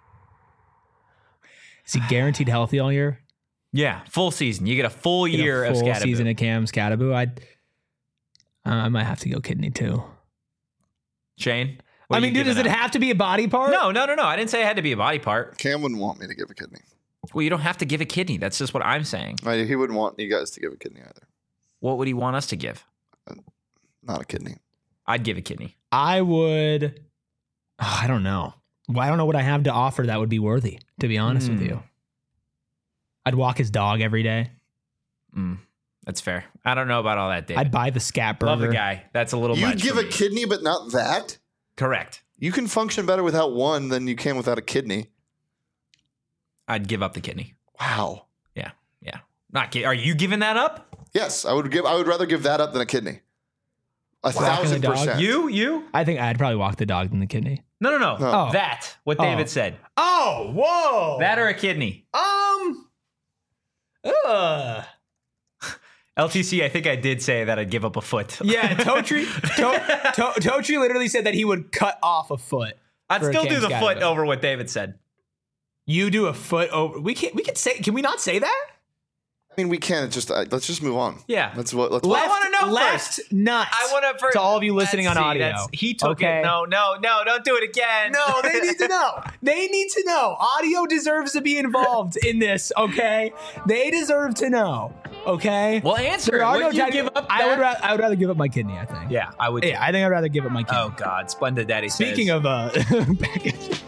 A: Is he guaranteed healthy all year?
B: Yeah, full season. You get a full
A: Get a
B: year of
A: full
B: Scadaboo.
A: season of Cam Scadaboo. I'd, uh, I might have to go kidney too.
B: Shane? what
A: I
B: are
A: mean,
B: you
A: dude, does it
B: giving up?
A: have to be a body part?
B: No, no, no, no. I didn't say it had to be a body part.
C: Cam wouldn't want me to give a kidney.
B: Well, you don't have to give a kidney. That's just what I'm saying.
C: I, he wouldn't want you guys to give a kidney either.
B: What would he want us to give?
C: Not a kidney.
B: I'd give a kidney.
A: I would. oh, I don't know. Well, I don't know what I have to offer that would be worthy, to be honest with
B: Hmm.
A: you. I'd walk his dog every day.
B: Mm, that's fair. I don't know about all that, David.
A: I'd buy the scat burger.
B: Love the guy. That's a little
C: You'd
B: much
C: give
B: for
C: a
B: me.
C: kidney, but not that?
B: Correct.
C: You can function better without one than you can without a kidney.
B: I'd give up the kidney.
C: Wow.
B: Yeah, yeah. Not ki- Are you giving that up?
C: Yes, I would give. I would rather give that up than a kidney. A
A: Walking
C: thousand
A: the dog?
C: percent.
B: You? You?
A: I think I'd probably walk the dog than the kidney.
B: No, no, no.
C: No.
A: Oh.
B: That. What
A: Oh.
B: David said.
A: Oh, whoa.
B: That or a kidney.
A: Um. Ugh.
B: L T C, I think I did say that I'd give up a foot.
A: Yeah, Totri, to, to, Totri literally said that he would cut off a foot.
B: I'd
A: for a
B: still
A: Cam
B: do the
A: Scadaboo.
B: foot over what David said.
A: You do a foot over. We can't. We can say. Can we not say that?
C: I mean, we can. It's just uh, let's just move on.
B: Yeah.
C: Let's what. Let's.
B: I wanna know
A: left
B: first.
A: nut.
B: I want to first.
A: To all of you listening
B: Let's
A: on
B: see,
A: audio.
B: that's- He took
A: Okay.
B: it. No, no, no. Don't do it again.
A: No, they need to know. They need to know. Audio deserves to be involved in this. Okay, they deserve to know. Okay.
B: Well, answer.
A: There are
B: Would
A: no
B: you
A: tech-
B: give up
A: I would.
B: that?
A: Ra- I would rather give up my kidney. I think.
B: Yeah, I would.
A: Yeah, I think I'd rather give up my kidney.
B: Oh God, Splendid Daddy.
A: Speaking
B: says,
A: of uh, package.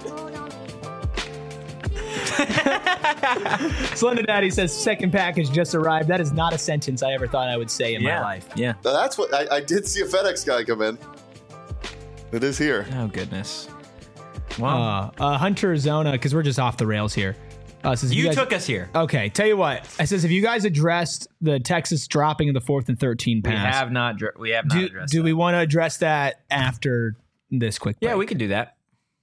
A: Slender Daddy says second package just arrived. That is not a sentence I ever thought I would say in
B: yeah,
A: my life.
B: yeah.
C: That's what I, I did see a FedEx guy come in. It is here.
B: Oh goodness. Wow.
A: Uh, uh, Hunter Zona, because we're just off the rails here. Uh, says if
B: you
A: guys-
B: took us here.
A: Okay, tell you what. I says, have you guys addressed the Texas dropping of the fourth and thirteen
B: We
A: pass?
B: have not. dr- We have not
A: do
B: addressed.
A: do
B: that.
A: we want to address that after this quick break?
B: Yeah, we can do that.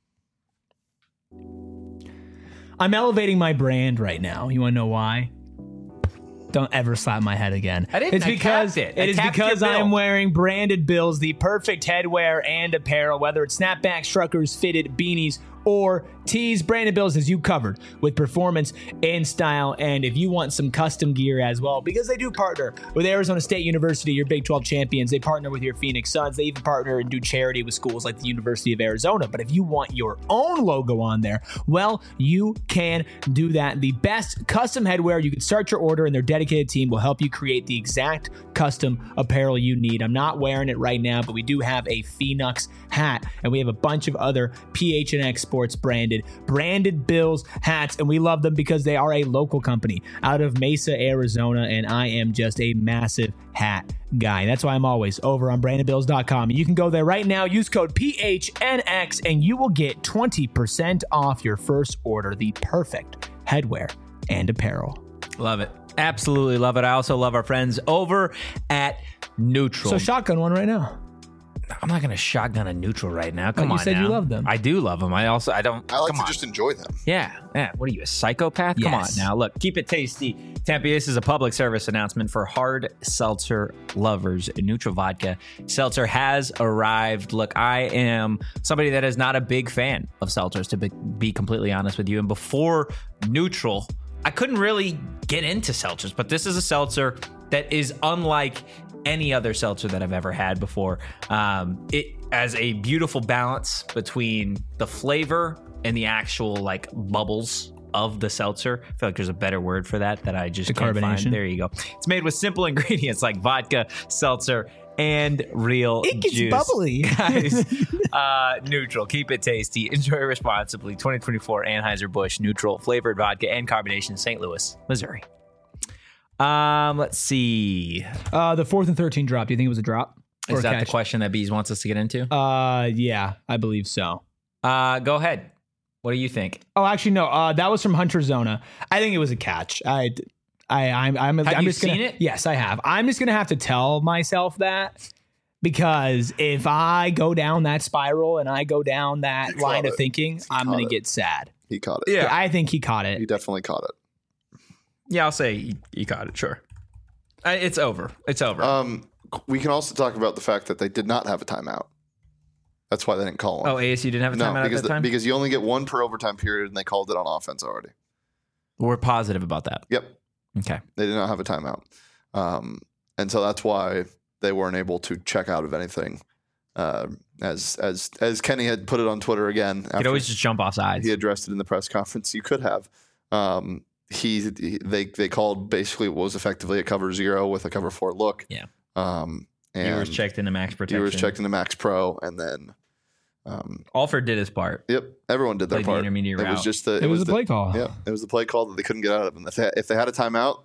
A: I'm elevating my brand right now. You want to know why? Don't ever slap my head again.
B: I didn't.
A: It's
B: I
A: because
B: tapped it. I
A: it is
B: tapped your
A: because I am
B: bill.
A: wearing branded bills, the perfect headwear and apparel, whether it's snapbacks, truckers, fitted beanies, or tees. Branded bills has you covered with performance and style. And if you want some custom gear as well, because they do partner with Arizona State University, your Big twelve champions. They partner with your Phoenix Suns. They even partner and do charity with schools like the University of Arizona. But if you want your own logo on there, well, you can do that. The best custom headwear. You can start your order, and their dedicated team will help you create the exact custom apparel you need. I'm not wearing it right now, but we do have a Phoenix hat, and we have a bunch of other P H N X Sports branded branded bills hats, and we love them because they are a local company out of Mesa, Arizona, and I am just a massive hat guy. That's why I'm always over on branded bills dot com. You can go there right now, use code P H N X, and you will get twenty percent off your first order. The perfect headwear and apparel.
B: Love it. Absolutely love it. I also love our friends over at Neutral.
A: So shotgun one right now.
B: I'm not going to shotgun a Neutral right now. Come
A: you
B: on
A: said
B: now.
A: you love them.
B: I do love them. I also, I don't.
C: I like
B: come
C: to
B: on.
C: just enjoy them.
B: Yeah, yeah. What are you, a psychopath? Come on
A: Yes.
B: now. Look, keep it tasty. Tampa, this is a public service announcement for hard seltzer lovers. Neutral Vodka Seltzer has arrived. Look, I am somebody that is not a big fan of seltzers, to be, be completely honest with you. And before Neutral, I couldn't really get into seltzers, but this is a seltzer that is unlike any other seltzer that I've ever had before. Um, it has a beautiful balance between the flavor and the actual like bubbles of the seltzer. I feel like there's a better word for that that I just
A: The
B: can't
A: carbonation.
B: find. There you go. It's made with simple ingredients like vodka, seltzer, and real
A: It gets
B: juice.
A: bubbly.
B: Guys, uh, neutral. Keep it tasty. Enjoy responsibly. twenty twenty-four Anheuser-Busch Neutral flavored vodka and carbonation, Saint Louis, Missouri. Um, let's see.
A: Uh, the fourth and thirteen drop. Do you think it was a drop? Or
B: Is
A: a
B: that
A: catch?
B: the question that Bees wants us to get into?
A: Uh, yeah, I believe so.
B: Uh, go ahead. What do you think?
A: Oh, actually, no. Uh, that was from Hunter Zona. I think it was a catch. I, I, I'm, I'm,
B: Have
A: I'm
B: you
A: just gonna,
B: seen it?
A: Yes, I have. I'm just gonna have to tell myself that because if I go down that spiral and I go down that
C: He
A: line
C: caught
A: of
C: it.
A: thinking,
C: He
A: I'm
C: caught
A: gonna
C: it.
A: get sad.
C: He caught it.
B: Yeah.
A: I think he caught
C: He
A: it.
C: definitely caught it.
B: Yeah, I'll say you, you got it. Sure. Uh, it's over. It's over.
C: Um, we can also talk about the fact that they did not have a timeout. That's why they didn't call one.
B: oh, A S U didn't have a
C: no,
B: timeout at
C: because
B: that
C: the-
B: time?
C: because you only get one per overtime period, and they called it on offense already.
B: We're positive about that.
C: Yep,
B: Okay.
C: they did not have a timeout, um, and so that's why they weren't able to check out of anything. Uh, as as as Kenny had put it on Twitter again,
B: You could
C: after
B: always just jump off sides.
C: he addressed it in the press conference. You could have. Um, he, he they they called basically what was effectively a cover zero with a cover four look.
B: Yeah.
C: Um, and
B: Viewers checked into max protection.
C: Viewers checked into Max Pro, and then. Um,
B: Alford did his part.
C: Yep, everyone did their
B: Played the
C: part.
B: intermediate
C: it
B: route.
C: was just the
A: It, was, a
C: the,
A: play call.
C: Yeah, it was the play call that they couldn't get out of. And if they, if they had a timeout,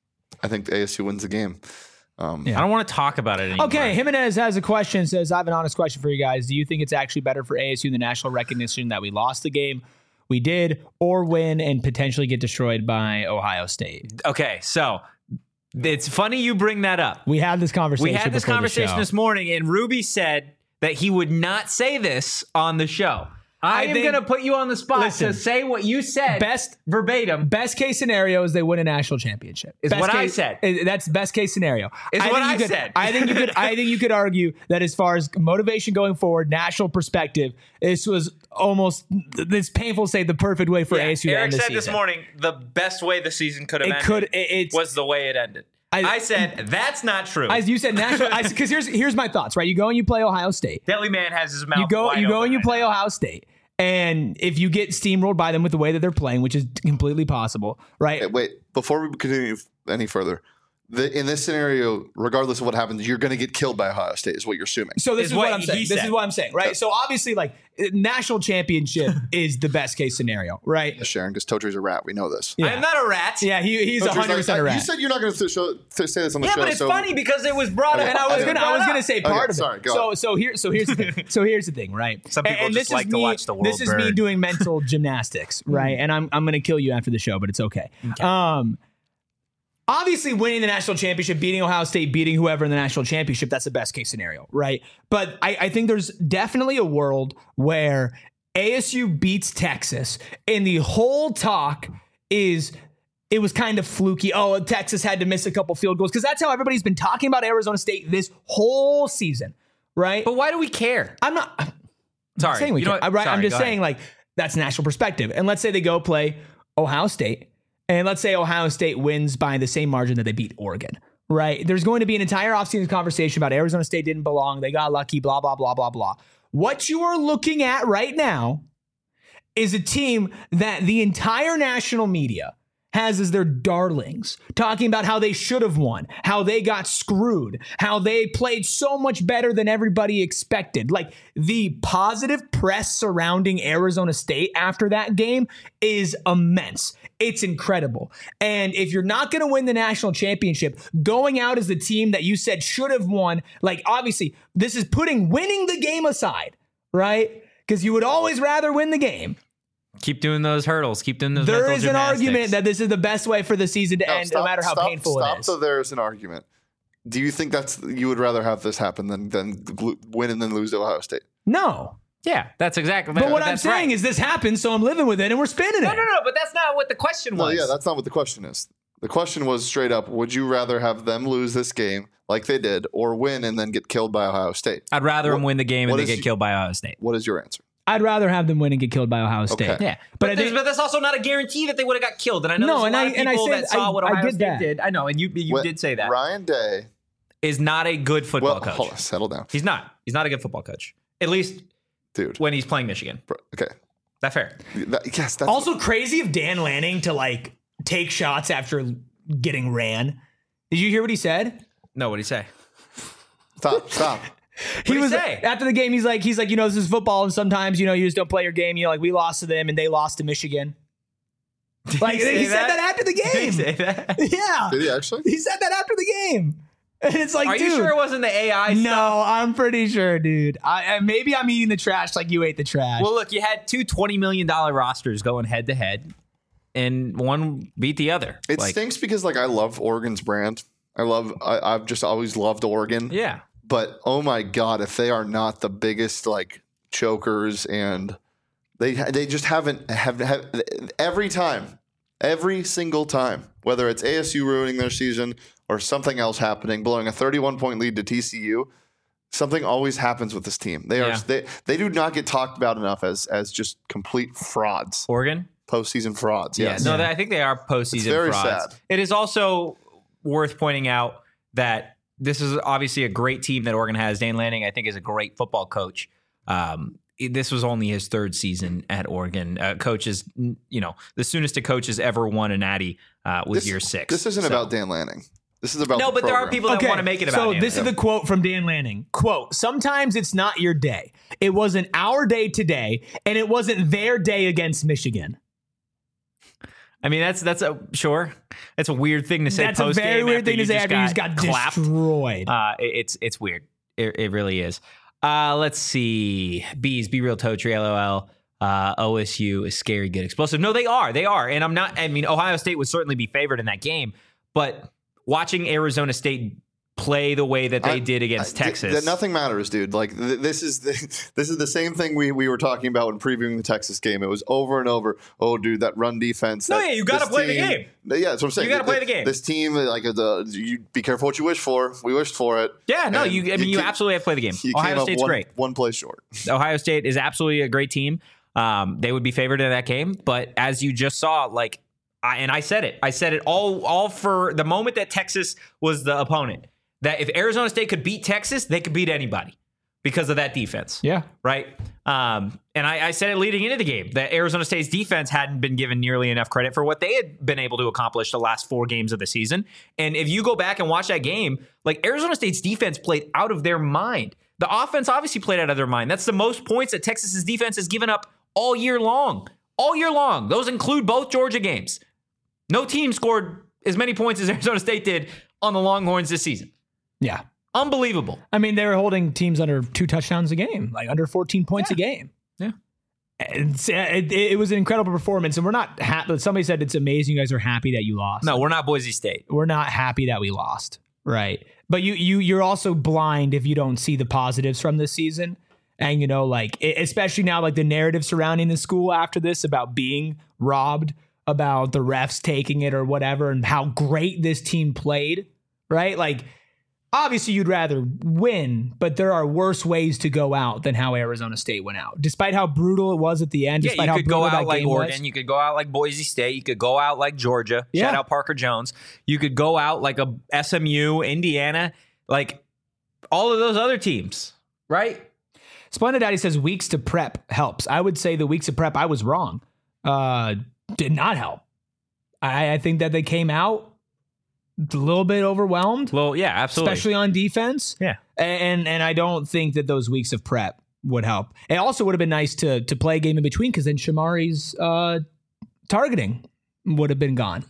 C: I think A S U wins the game. Um,
A: Yeah.
B: I don't want to talk about it anymore.
A: Okay, Jimenez has a question. Says, I have an honest question for you guys. Do you think it's actually better for A S U in the national recognition that we lost the game we did, or win and potentially get destroyed by Ohio State?
B: Okay, so it's funny you bring that up.
A: We had this conversation.
B: We had this
A: before the
B: conversation
A: show.
B: this morning, and Ruby said that he would not say this on the show. I,
A: I
B: am
A: think-
B: going to put you on the spot
A: Listen,
B: to say what you said
A: best-
B: verbatim.
A: Best case scenario is they win a national championship.
B: Is
A: Best
B: what I
A: case-
B: said.
A: uh, That's best case scenario.
B: Is
A: I
B: what
A: think you
B: I
A: could-
B: said.
A: I think you could. I think you could argue that as far as motivation going forward, national perspective, this was almost. It's painful to say the perfect way for A S U to
B: Eric
A: end the
B: said
A: season.
B: this morning the best way the season could have
A: It
B: ended
A: could. It, it's
B: was the way it ended. I,
A: I-
B: said that's not true.
A: as you said national. Because here's here's my thoughts. Right, you go and you play Ohio State.
B: Deadly Man has his mouth.
A: You go.
B: wide
A: You go
B: open
A: and you
B: right
A: play
B: now.
A: Ohio State. And if you get steamrolled by them with the way that they're playing, which is completely possible, right?
C: Hey, wait, before we continue any further, the, in this scenario, regardless of what happens, you're going to get killed by Ohio State, is what you're assuming.
A: So this
B: Is
A: is what,
B: what
A: I'm
B: he
A: saying. This
B: said.
A: is what I'm saying, right? So obviously, like national championship is the best case scenario, right?
C: Sharon, because Totri's a rat. We know this.
A: Yeah.
B: I am not a rat.
A: Yeah, he, he's
C: Totri's
A: one hundred percent
C: like,
A: a
C: You
A: rat.
C: said you're not going to show, th- say this on the
B: Yeah,
C: show.
B: but it's
C: so
B: funny because it was brought up.
C: Okay.
A: And I was
C: Okay.
A: gonna, I was gonna say part
C: Okay,
A: of it.
C: sorry, go
A: so,
C: on.
A: so here, so here's the thing. So here's the thing, right?
B: Some people
A: and
B: just
A: this
B: like
A: is
B: to
A: me,
B: watch the world
A: This is me
B: burn.
A: doing mental gymnastics, right? And I'm, I'm gonna kill you after the show, but it's okay. Um, obviously, winning the national championship, beating Ohio State, beating whoever in the national championship, that's the best case scenario, right? But I, I think there's definitely a world where A S U beats Texas, and the whole talk is it was kind of fluky. Oh, Texas had to miss a couple field goals because that's how everybody's been talking about Arizona State this whole season, right?
B: But why do we care?
A: I'm not I'm
B: Sorry.
A: saying we
B: You know
A: can't.
B: what?
A: Right?
B: Sorry,
A: I'm just
B: go
A: saying
B: ahead.
A: like that's national perspective. And let's say they go play Ohio State, and let's say Ohio State wins by the same margin that they beat Oregon. Right? There's going to be an entire offseason conversation about Arizona State didn't belong. They got lucky, blah, blah, blah, blah, blah. What you are looking at right now is a team that the entire national media has as their darlings, talking about how they should have won, how they got screwed, how they played so much better than everybody expected. Like the positive press surrounding Arizona State after that game is immense. It's incredible. And if you're not going to win the national championship, going out as the team that you said should have won, like obviously this is putting winning the game aside, right? Because you would always rather win the game.
B: Keep doing those hurdles. Keep doing those
A: There
B: mental
A: is an
B: gymnastics.
A: argument that this is the best way for the season to
C: No,
A: end,
C: stop-
A: no matter how
C: stop-
A: painful
C: stop
A: it is.
C: So there's an argument. Do you think that's you would rather have this happen than than gl- win and then lose to Ohio State?
A: No.
B: Yeah, that's exactly.
A: But what I'm
B: that's
A: saying
B: right.
A: is this happens, so I'm living with it and we're spinning it.
B: no, no, no. But that's not what the question
C: No,
B: was.
C: yeah, that's not what the question is. The question was straight up: would you rather have them lose this game like they did, or win and then get killed by Ohio State?
B: I'd rather
C: What-
B: them win the game and
C: what
B: they
C: is
B: get
C: y-
B: killed by Ohio State.
C: What is your answer?
A: I'd rather have them win and get killed by Ohio State.
C: Okay.
B: Yeah,
A: But
B: but,
A: I
B: there's-
A: think-
B: but that's also not a guarantee that they would have got killed. And I know
A: No,
B: there's a
A: and
B: lot
A: I-
B: of
A: and I
B: people
A: said-
B: that saw
A: I-
B: what
A: I
B: Ohio
A: get
B: State
A: that.
B: did. I know, and you you
C: When
B: did say that.
C: Ryan Day
B: is not a good football
C: Well,
B: coach.
C: hold on, settle down,
B: He's not. He's not a good football coach. At least
C: dude.
B: when he's playing Michigan.
C: Bro, okay,
B: Is that fair?
C: That- yes. That's
A: Also crazy of Dan Lanning to like take shots after getting ran. Did you hear what he said?
B: No, what'd he say?
C: stop. Stop.
A: He
B: What'd he
A: was
B: say?
A: after the game. He's like, he's like, you know, this is football, and sometimes you know you just don't play your game. You know, like we lost to them, and they lost to Michigan. Like
B: he
A: he,
B: say
A: said
B: that?
A: that after the
B: Did he
A: game.
B: say that?
A: Yeah,
C: Did he actually?
A: he said that after the game, and it's like,
B: Are
A: dude,
B: you sure it wasn't the A I stuff?
A: no, I'm pretty sure, dude. I, I maybe I'm eating the trash like you ate the trash.
B: Well, look, you had two twenty million dollars rosters going head to head, and one beat the other.
C: It
B: like,
C: stinks because like I love Oregon's brand. I love. I, I've just always loved Oregon.
B: yeah.
C: But oh my god, if they are not the biggest like chokers, and they they just haven't have, have every time, every single time, whether it's A S U ruining their season or something else happening, blowing a thirty-one point lead to T C U, something always happens with this team. They are
B: Yeah.
C: they they do not get talked about enough as as just complete frauds,
B: Oregon?
C: postseason frauds.
B: Yeah.
C: Yes.
B: No, I think they are postseason
C: It's very
B: frauds.
C: sad.
B: It is also worth pointing out that this is obviously a great team that Oregon has. Dan Lanning, I think, is a great football coach. Um, this was only his third season at Oregon. Uh, coaches, you know, the soonest a coach has ever won a natty uh, was
C: This-
B: year six.
C: This isn't
B: So-
C: about Dan Lanning. This is about
B: No,
C: the
B: but there are
C: program.
B: people that want to make it about
A: so
B: Dan
A: this
B: Lanning.
A: is the quote from Dan Lanning. Quote, sometimes it's not your day. It wasn't our day today, and it wasn't their day against Michigan.
B: I mean, that's that's a sure. That's a weird thing to say.
A: That's a
B: post-game
A: very weird
B: after
A: thing to
B: you
A: say
B: just
A: after you just got
B: clapped.
A: destroyed.
B: Uh, it- it's it's weird. It, it really is. Uh, let's see. Bees, Be Real Totri, LOL. Uh, O S U is scary, good, explosive. No, they are. They are. And I'm not, I mean, Ohio State would certainly be favored in that game. But watching Arizona State play the way that they
C: I-
B: did against
C: I- th-
B: Texas.
C: th- nothing matters, dude. Like th- this is the, this is the same thing we, we were talking about when previewing the Texas game. It was over and over. Oh, dude, that run defense.
B: No,
C: that-
B: yeah, you gotta
C: this
B: play the
C: team-
B: game.
C: Yeah, that's what I'm saying.
B: You gotta play
C: Th-
B: the game.
C: This team, like the you be careful what you wish for. We wished for it.
B: yeah, no,
C: And
B: you. I mean, you
C: came-
B: absolutely have to play the game.
C: you came
B: Ohio
C: up
B: State's
C: one,
B: great.
C: One play short.
B: Ohio State is absolutely a great team. Um, they would be favored in that game, but as you just saw, like, I, and I said it, I said it all, all for the moment that Texas was the opponent. That if Arizona State could beat Texas, they could beat anybody because of that defense.
A: Yeah.
B: Right. Um, and I, I said it leading into the game that Arizona State's defense hadn't been given nearly enough credit for what they had been able to accomplish the last four games of the season. And if you go back and watch that game, like Arizona State's defense played out of their mind. The offense obviously played out of their mind. That's the most points that Texas's defense has given up all year long. All year long. Those include both Georgia games. No team scored as many points as Arizona State did on the Longhorns this season.
A: Yeah.
B: Unbelievable.
A: I mean, they were holding teams under two touchdowns a game, like under fourteen points
B: Yeah.
A: a game.
B: Yeah.
A: It's, it, it was an incredible performance, and we're not happy. Somebody said it's amazing. You guys are happy that you lost.
B: No, we're not Boise State.
A: We're not happy that we lost. Right. But you, you, you're also blind if you don't see the positives from this season. And, you know, like, e- especially now, like the narrative surrounding the school after this about being robbed, about the refs taking it or whatever, and how great this team played. Right. Like, obviously, you'd rather win, but there are worse ways to go out than how Arizona State went out. Despite how brutal it was at the end,
B: Yeah,
A: despite
B: you
A: how
B: could go
A: brutal
B: out
A: that
B: like
A: game
B: Oregon.
A: was.
B: You could go out like Boise State. You could go out like Georgia.
A: Yeah.
B: Shout out Parker Jones. You could go out like a S M U, Indiana, like all of those other teams, right?
A: Splendid Daddy says weeks to prep helps. I would say the weeks of prep, I was wrong. Uh, did not help. I, I think that they came out a little bit overwhelmed,
B: Well, yeah, absolutely.
A: especially on defense.
B: Yeah.
A: And and I don't think that those weeks of prep would help. It also would have been nice to to play a game in between because then Shamari's uh, targeting would have been gone.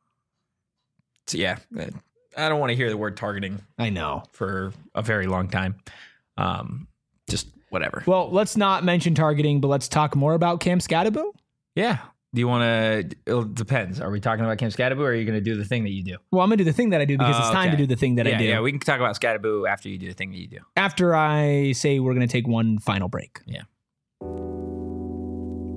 B: So, yeah, I don't want to hear the word targeting
A: I know.
B: for a very long time. Um, just whatever.
A: Well, let's not mention targeting, but let's talk more about Cam Scatterbo.
B: Yeah. Do you want to? It depends. Are we talking about Cam Scatterbo, or are you going to do the thing that you do?
A: Well, I'm going to do the thing that I do because
B: Oh,
A: it's time
B: okay.
A: to do the thing that
B: yeah,
A: I do.
B: yeah. We can talk about Scatterbo after you do the thing that you do.
A: After I say we're going to take one final break.
B: Yeah.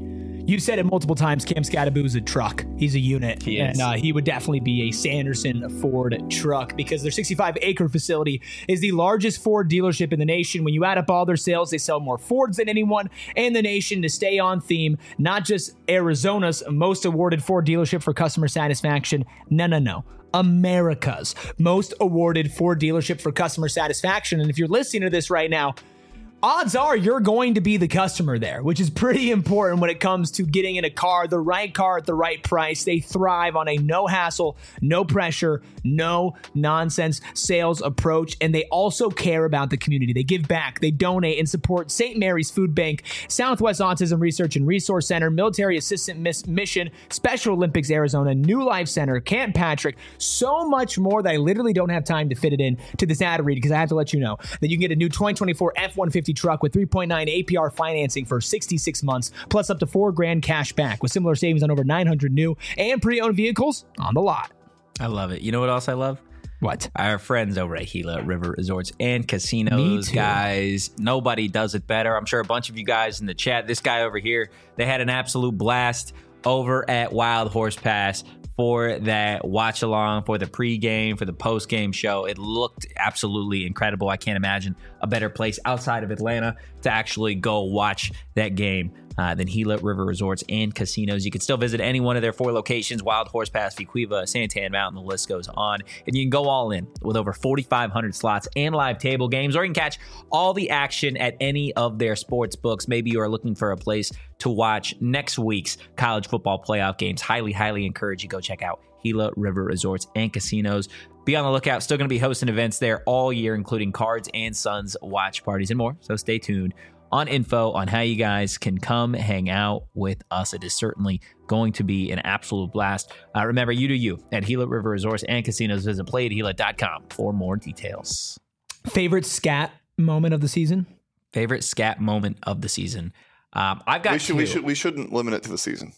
A: You said it multiple times. Cam Scadaboo is a truck. He's a unit.
B: He is.
A: And uh, he would definitely be a Sanderson Ford truck because their sixty-five acre facility is the largest Ford dealership in the nation. When you add up all their sales, they sell more Fords than anyone in the nation. To stay on theme, not just Arizona's most awarded Ford dealership for customer satisfaction. No, no, no. America's most awarded Ford dealership for customer satisfaction. And if you're listening to this right now, odds are you're going to be the customer there, which is pretty important when it comes to getting in a car, the right car at the right price. They thrive on a no hassle, no pressure, no nonsense sales approach. And they also care about the community. They give back, they donate and support Saint Mary's Food Bank, Southwest Autism Research and Resource Center, Military Assistant Miss Mission, Special Olympics Arizona, New Life Center, Camp Patrick, so much more that I literally don't have time to fit it in to this ad read because I have to let you know that you can get a new twenty twenty-four F one fifty truck with three point nine A P R financing for sixty-six months, plus up to four grand cash back with similar savings on over nine hundred new and pre-owned vehicles on the lot.
B: I love it. You know what else I love?
A: What?
B: Our friends over at Gila River Resorts and Casinos, guys. Nobody does it better. I'm sure a bunch of you guys in the chat, this guy over here, they had an absolute blast over at Wild Horse Pass for that watch along, for the pregame, for the postgame show. It looked absolutely incredible. I can't imagine a better place outside of Atlanta to actually go watch that game uh, than Gila River Resorts and Casinos. You can still visit any one of their four locations: Wild Horse Pass, Fuquila, Santan Mountain, the list goes on. And you can go all in with over forty-five hundred slots and live table games, or you can catch all the action at any of their sports books. Maybe you are looking for a place to watch next week's college football playoff games. Highly, highly encourage you go check out Gila River Resorts and Casinos. Be on the lookout. Still going to be hosting events there all year, including Cards and Sons watch parties and more. So stay tuned on info on how you guys can come hang out with us. It is certainly going to be an absolute blast. Uh, remember, you do you at Gila River Resorts and Casinos. Visit play at gila dot com for more details.
A: Favorite scat moment of the season?
B: Favorite scat moment of the season? Um, I've got
C: we should,
B: two.
C: we should we shouldn't limit it to the season.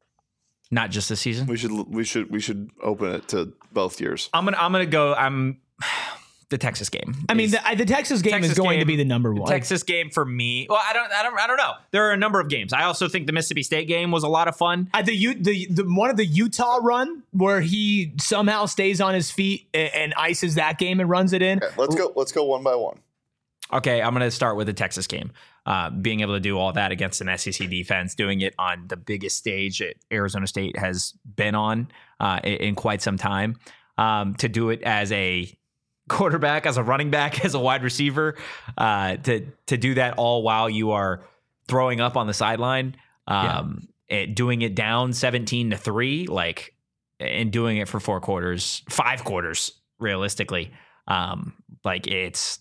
B: Not just the season.
C: We should we should we should open it to both years.
B: I'm gonna I'm gonna go. I'm the Texas game.
A: I mean, the, the Texas game
B: Texas
A: is going
B: game,
A: to be the number one.
B: The Texas game for me. Well, I don't I don't I don't know. There are a number of games. I also think the Mississippi State game was a lot of fun.
A: Uh, the, U, the the one of the Utah run where he somehow stays on his feet and, and ices that game and runs it in.
C: Okay, let's go. Let's go one by one.
B: Okay, I'm going to start with the Texas game. Uh, being able to do all that against an S E C defense, doing it on the biggest stage that Arizona State has been on uh, in, in quite some time. Um, to do it as a quarterback, as a running back, as a wide receiver, uh, to to do that all while you are throwing up on the sideline, um, yeah. it, doing it down seventeen to three, like, and doing it for four quarters, five quarters, realistically. Um, like it's.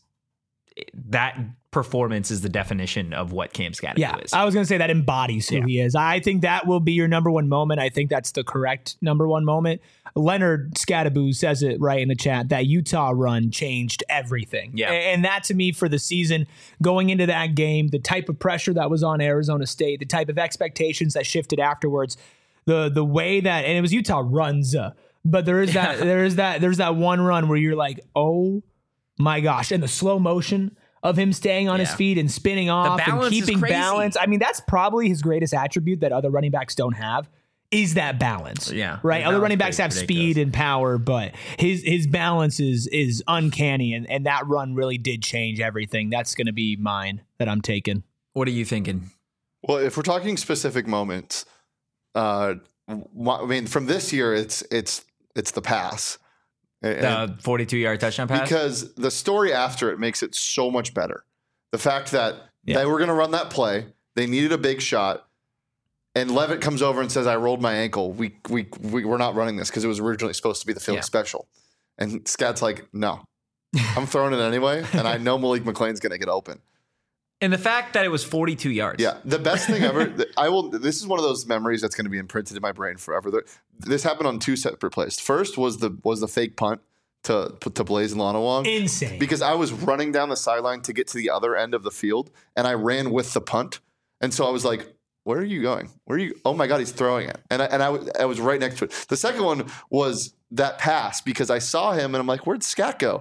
B: That performance is the definition of what Cam Scadaboo
A: yeah,
B: is.
A: I was going to say that embodies who yeah. he is. I think that will be your number one moment. I think that's the correct number one moment. Leonard Scadaboo says it right in the chat. That Utah run changed everything.
B: Yeah.
A: And that to me for the season, going into that game, the type of pressure that was on Arizona State, the type of expectations that shifted afterwards, the the way that, and it was Utah runs, uh, but there is that, there is that, there's that one run where you're like, oh, my gosh. And the slow motion of him staying on yeah. his feet and spinning off and keeping balance. I mean, that's probably his greatest attribute that other running backs don't have is that balance.
B: Yeah.
A: Right. Other running backs have ridiculous. speed and power, but his his balance is is uncanny. And, and that run really did change everything. That's going to be mine that I'm taking.
B: What are you thinking?
C: Well, if we're talking specific moments, uh, I mean, from this year, it's it's it's the pass.
B: The forty-two yard touchdown pass?
C: Because the story after it makes it so much better. The fact that yeah. they were going to run that play, they needed a big shot, and Levitt comes over and says, I rolled my ankle. We, we, we, we're not running this because it was originally supposed to be the Philly yeah. special. And Scat's like, no, I'm throwing it anyway, and I know Malik McLean's going to get open.
B: And the fact that it was forty-two yards.
C: Yeah, the best thing ever. I will. This is one of those memories that's going to be imprinted in my brain forever. This happened on two separate plays. First was the was the fake punt to to Blaze and Lonawong.
A: Insane.
C: Because I was running down the sideline to get to the other end of the field, and I ran with the punt, and so I was like, "Where are you going? Where are you? Oh my God, he's throwing it!" And I, and I, I was right next to it. The second one was that pass because I saw him, and I'm like, "Where'd Scat go?"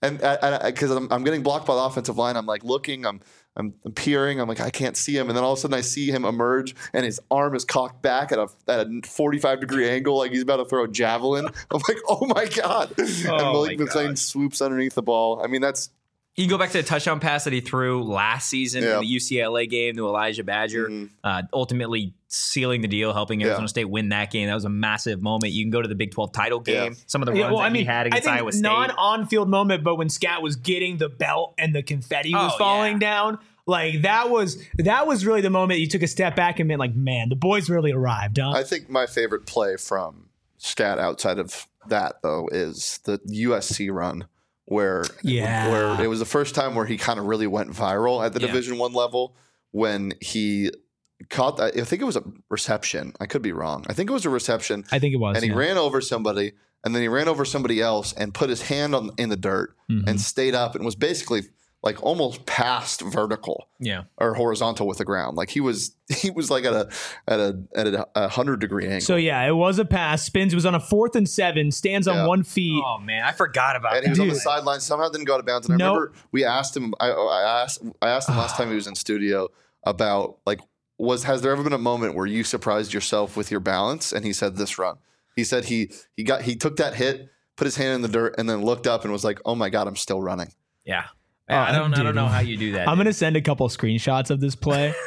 C: and because I'm, I'm getting blocked by the offensive line, I'm like looking, I'm, I'm I'm peering, I'm like I can't see him, and then all of a sudden I see him emerge, and his arm is cocked back at a at a forty-five degree angle, like he's about to throw a javelin. I'm like, oh my god!
B: Oh
C: and Malik
B: my
C: McClain
B: God.
C: swoops underneath the ball. I mean, that's.
B: You go back to the touchdown pass that he threw last season
C: Yeah.
B: in the U C L A game to Elijah Badger,
C: Mm-hmm.
B: uh, ultimately sealing the deal, helping Arizona
C: Yeah.
B: State win that game. That was a massive moment. You can go to the Big twelve title game.
C: Yeah.
B: Some of the runs
A: Yeah, well,
B: that
A: I mean,
B: he had
A: I
B: against
A: think
B: Iowa State.
A: non-on-field moment, but when Scat was getting the belt and the confetti was
B: Oh,
A: falling
B: yeah.
A: down, like that was that was really the moment you took a step back and been like, man, the boys really arrived, huh?
C: I think my favorite play from Scat outside of that though is the U S C run. Where,
A: Yeah.
C: where it was the first time where he kind of really went viral at the
B: Yeah.
C: Division One level when he caught that. I think it was a reception. I could be wrong. I think it was a reception,
A: I think it was.
C: and he
A: yeah.
C: ran over somebody, and then he ran over somebody else and put his hand on in the dirt
A: Mhm.
C: and stayed up and was basically like almost past vertical
B: yeah.
C: or horizontal with the ground. Like he was he was like at a at a at a, a hundred degree angle.
A: So yeah, it was a pass. Spins. It was on a fourth and seven. Stands on
C: Yeah.
A: one feet.
B: Oh, man. I forgot about
C: and he
B: that.
C: was on the
A: Dude.
C: sideline. Somehow didn't go out of bounds. And I
A: Nope.
C: remember we asked him. I, I asked. I asked him last time he was in studio about like was has there ever been a moment where you surprised yourself with your balance? And he said this run. He said he he got he took that hit, put his hand in the dirt, and then looked up and was like, "Oh my god, I'm still running."
B: Yeah. I don't. I
A: dude.
B: don't know how you do that.
A: I'm gonna send a couple screenshots of this play.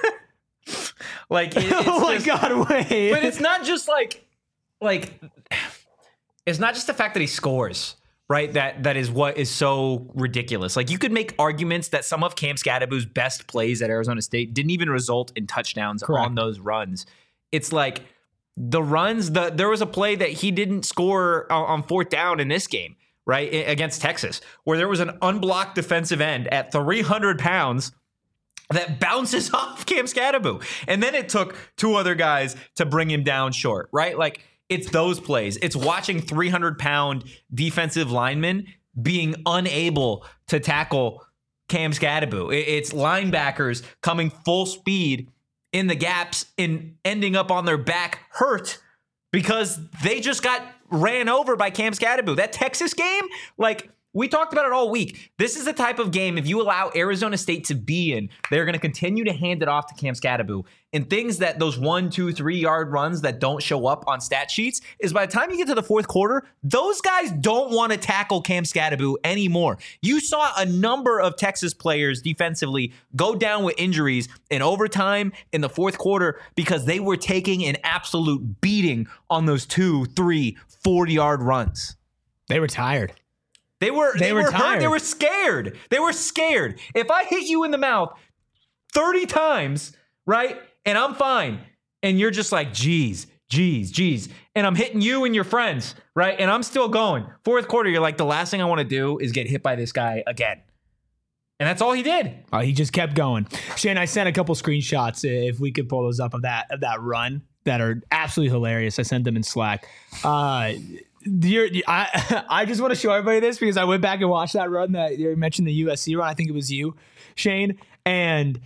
B: like. It, it's
A: oh my
B: just-
A: god, wait!
B: But it's not just like, like, it's not just the fact that he scores, right? That that is what is so ridiculous. Like you could make arguments that some of Cam Scadaboo's best plays at Arizona State didn't even result in touchdowns
A: Correct.
B: on those runs. It's like the runs. The there was a play that he didn't score on, on fourth down in this game, right, I- against Texas, where there was an unblocked defensive end at three hundred pounds that bounces off Cam Scadaboo. And then it took two other guys to bring him down short, right? Like, it's those plays. It's watching three hundred pound defensive linemen being unable to tackle Cam Scadaboo. It- It's linebackers coming full speed in the gaps and ending up on their back hurt because they just got ran over by Cam Scadaboo. That Texas game, like, we talked about it all week. This is the type of game, if you allow Arizona State to be in, they're going to continue to hand it off to Cam Scadaboo. And things that those one, two, three yard runs that don't show up on stat sheets is by the time you get to the fourth quarter, those guys don't want to tackle Cam Scadaboo anymore. You saw a number of Texas players defensively go down with injuries in overtime in the fourth quarter because they were taking an absolute beating on those two, three, forty yard runs.
A: They were tired.
B: They were they,
A: They were
B: were, hurt.
A: tired.
B: They were scared. They were scared. If I hit you in the mouth thirty times, right, and I'm fine, and you're just like, geez, geez, geez, and I'm hitting you and your friends, right, and I'm still going. Fourth quarter, you're like, the last thing I want to do is get hit by this guy again. And that's all he did.
A: Oh, he just kept going. Shane, I sent a couple screenshots if we could pull those up of that of that run that are absolutely hilarious. I sent them in Slack. Uh, you're, I I just want to show everybody this because I went back and watched that run that you mentioned, the U S C run. I think it was you, Shane, and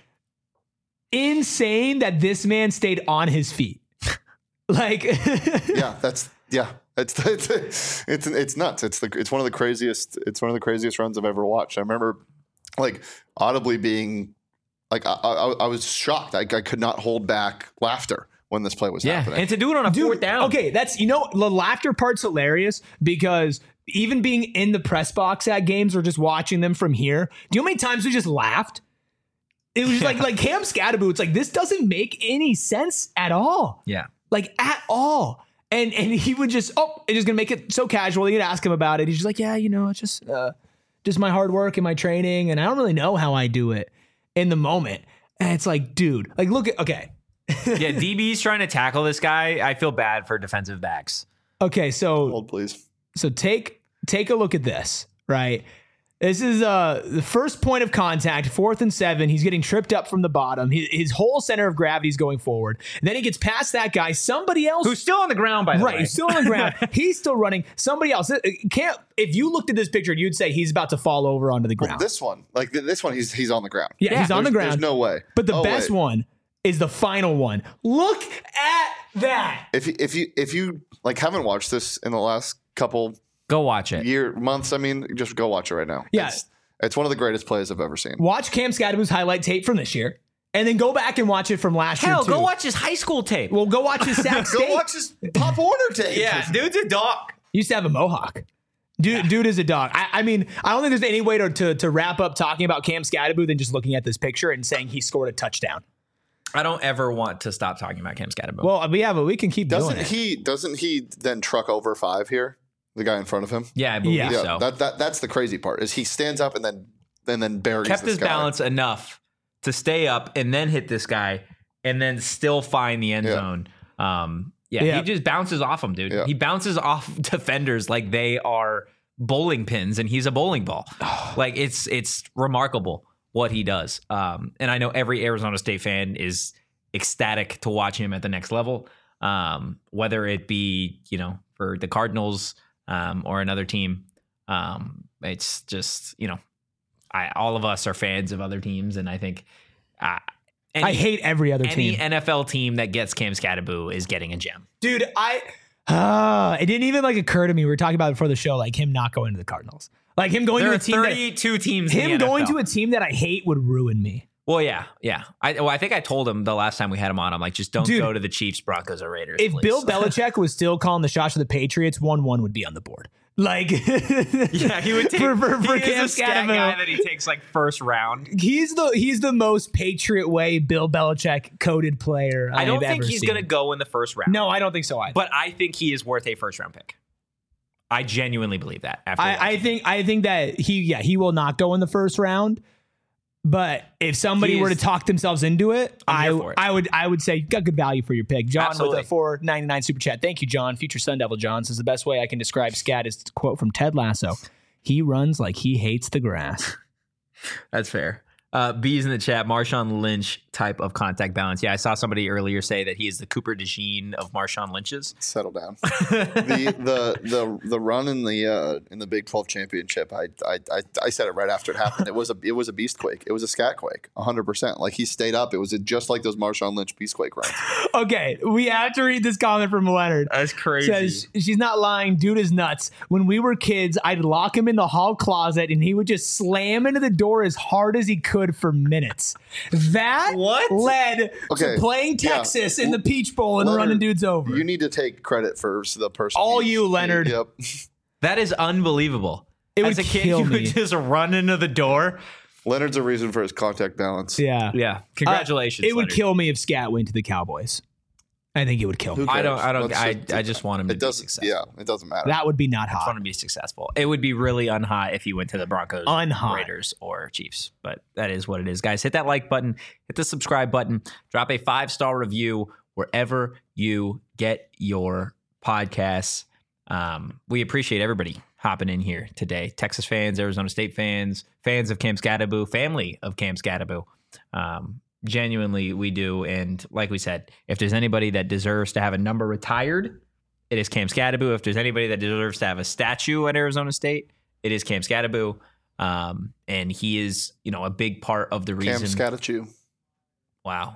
A: insane that this man stayed on his feet. Like,
C: Yeah, that's yeah. It's it's it's it's nuts. It's the it's one of the craziest. It's one of the craziest runs I've ever watched. I remember like audibly being like I I, I was shocked. I, I could not hold back laughter when this play was happening.
B: And to do it on a
A: Dude,
B: fourth down.
A: Okay, that's, you know, the laughter part's hilarious because even being in the press box at games or just watching them from here, do you know how many times we just laughed? It was just like like Cam Scadaboo. It's like, this doesn't make any sense at all.
B: Yeah.
A: Like at all. And and he would just, oh, it's just gonna make it so casual. You'd ask him about it. He's just like, yeah, you know, it's just uh, just my hard work and my training, and I don't really know how I do it in the moment. And it's like, dude, like look at okay.
B: Yeah, D B's trying to tackle this guy. I feel bad for defensive backs.
A: Okay, so
C: Hold, please.
A: So take take a look at this, right? This is uh the first point of contact, fourth and seven. He's getting tripped up from the bottom. His, his whole center of gravity is going forward. And then he gets past that guy. Somebody else
B: Who's still on the ground, by the
A: right,
B: way.
A: he's still on the ground. He's still running. Somebody else can't. If you looked at this picture, you'd say he's about to fall over onto the ground.
C: This one, like th- this one, he's he's on the ground.
A: yeah, he's on the
C: There's-
A: ground.
C: There's no way.
A: But the
C: Oh,
A: best
C: wait.
A: one is the final one. Look at that.
C: If you, if you if you like haven't watched this in the last couple
B: Go watch it.
C: year, months. I mean, just go watch it right now.
A: Yeah.
C: It's, it's one of the greatest plays I've ever seen.
A: Watch Cam Scadaboo's highlight tape from this year, and then go back and watch it from last
B: Hell,
A: year, too.
B: go watch his high school tape.
A: Well, go watch his Sac State.
C: Go watch his Pop Warner tape.
B: Yeah, dude's a dog.
A: He used to have a mohawk. Dude, yeah. dude is a dog. I, I mean, I don't think there's any way to, to to wrap up talking about Cam Scadaboo than just looking at this picture and saying he scored a touchdown.
B: I don't ever want to stop talking about Cam Scadaboo.
A: Well, we have, but we can keep
C: doesn't
A: doing it.
C: he? Doesn't he then truck over five here? The guy in front of him.
B: Yeah, I believe
A: Yeah.
B: so.
C: Yeah, that, that that's the crazy part is he stands up and then and then buries
B: Kept
C: this
B: his
C: guy.
B: balance enough to stay up and then hit this guy and then still find the end
C: Yeah.
B: zone. Um, yeah,
A: Yeah.
B: he just bounces off them, dude.
C: Yeah.
B: He bounces off defenders like they are bowling pins and he's a bowling ball. Like it's it's remarkable what he does. Um, and I know every Arizona State fan is ecstatic to watch him at the next level. Um, whether it be, you know, for the Cardinals um, or another team. Um, it's just, you know, I all of us are fans of other teams, and I think uh, any,
A: I hate every other
B: any
A: team.
B: N F L team that gets Cam Scadaboo is getting a gem.
A: Dude, I uh, it didn't even like occur to me. We were talking about it before the show, like him not going to the Cardinals. Like him going
B: There
A: to
B: are
A: a team that,
B: thirty-two teams. in
A: him
B: the
A: going
B: N F L.
A: to a team that I hate would ruin me.
B: Well, yeah, yeah. I well, I think I told him the last time we had him on. I'm like, just don't
A: Dude,
B: go to the Chiefs, Broncos, or Raiders.
A: If
B: please.
A: Bill Belichick was still calling the shots for the Patriots, one one would be on the board. Like,
B: yeah, he would take
A: for, for, for
B: he
A: Cam
B: is a scat
A: Scadaboo.
B: guy that he takes like first round.
A: He's the he's the most Patriot way Bill Belichick coded player
B: I don't
A: I've
B: think
A: ever
B: he's
A: seen.
B: going to go in the first round.
A: No, I don't think so either.
B: But I think he is worth a first round pick. I genuinely believe that. After
A: I, I think I think that he yeah he will not go in the first round. But if somebody
B: He
A: were to
B: is-
A: talk themselves into it,
B: I'm
A: I
B: here for it.
A: I would I would say you got good value for your pick. John
B: Absolutely.
A: with a four ninety-nine super chat. Thank you, John. Future Sun Devil John says the best way I can describe Scat is to quote from Ted Lasso. He runs like he hates the grass.
B: That's fair. Uh, B's in the chat, Marshawn Lynch type of contact balance. Yeah, I saw somebody earlier say that he is the Cooper DeJean of Marshawn Lynch's.
C: Settle down. the the the the run in the uh, in the Big twelve championship. I, I I I said it right after it happened. It was a it was a beast quake. It was a scat quake. one hundred percent. Like he stayed up. It was just like those Marshawn Lynch beast quake runs.
A: Okay, we have to read this comment from Leonard.
B: That's crazy.
A: Says she's not lying. Dude is nuts. When we were kids, I'd lock him in the hall closet and he would just slam into the door as hard as he could for minutes. That
B: What?
A: led
C: Okay,
A: to playing
C: yeah.
A: Texas in the Peach Bowl and
C: Leonard,
A: running dudes over.
C: You need to take credit for the person.
A: All you, Leonard.
C: Yep.
B: That is unbelievable.
A: It
B: As
A: would
B: a kid,
A: kill
B: you
A: me.
B: would just run into the door.
C: Leonard's a reason for his contact balance.
A: Yeah.
B: Yeah. Congratulations.
A: Uh, it would
B: Leonard.
A: kill me if Scat went to the Cowboys. I think it would kill me.
C: Who
B: I don't.
C: cares?
B: I don't.
C: Let's
B: I,
C: just-
B: I just want him to
C: It
B: be
C: doesn't.
B: successful.
C: Yeah, it doesn't matter.
A: That would be not
B: I just want
A: hot.
B: to be successful. It would be really unhot if he went to the Broncos,
A: Unhot.
B: Raiders, or Chiefs. But that is what it is, guys. Hit that like button. Hit the subscribe button. Drop a five star review wherever you get your podcasts. Um, we appreciate everybody hopping in here today. Texas fans, Arizona State fans, fans of Cam Scadaboo, family of Cam Scadaboo. Um, genuinely, we do. And like we said, if there's anybody that deserves to have a number retired, it is Cam Scadaboo. If there's anybody that deserves to have a statue at Arizona State, it is Cam Scadaboo. Um, and he is, you know, a big part of the
C: Cam
B: reason.
C: Scatachew.
B: Wow,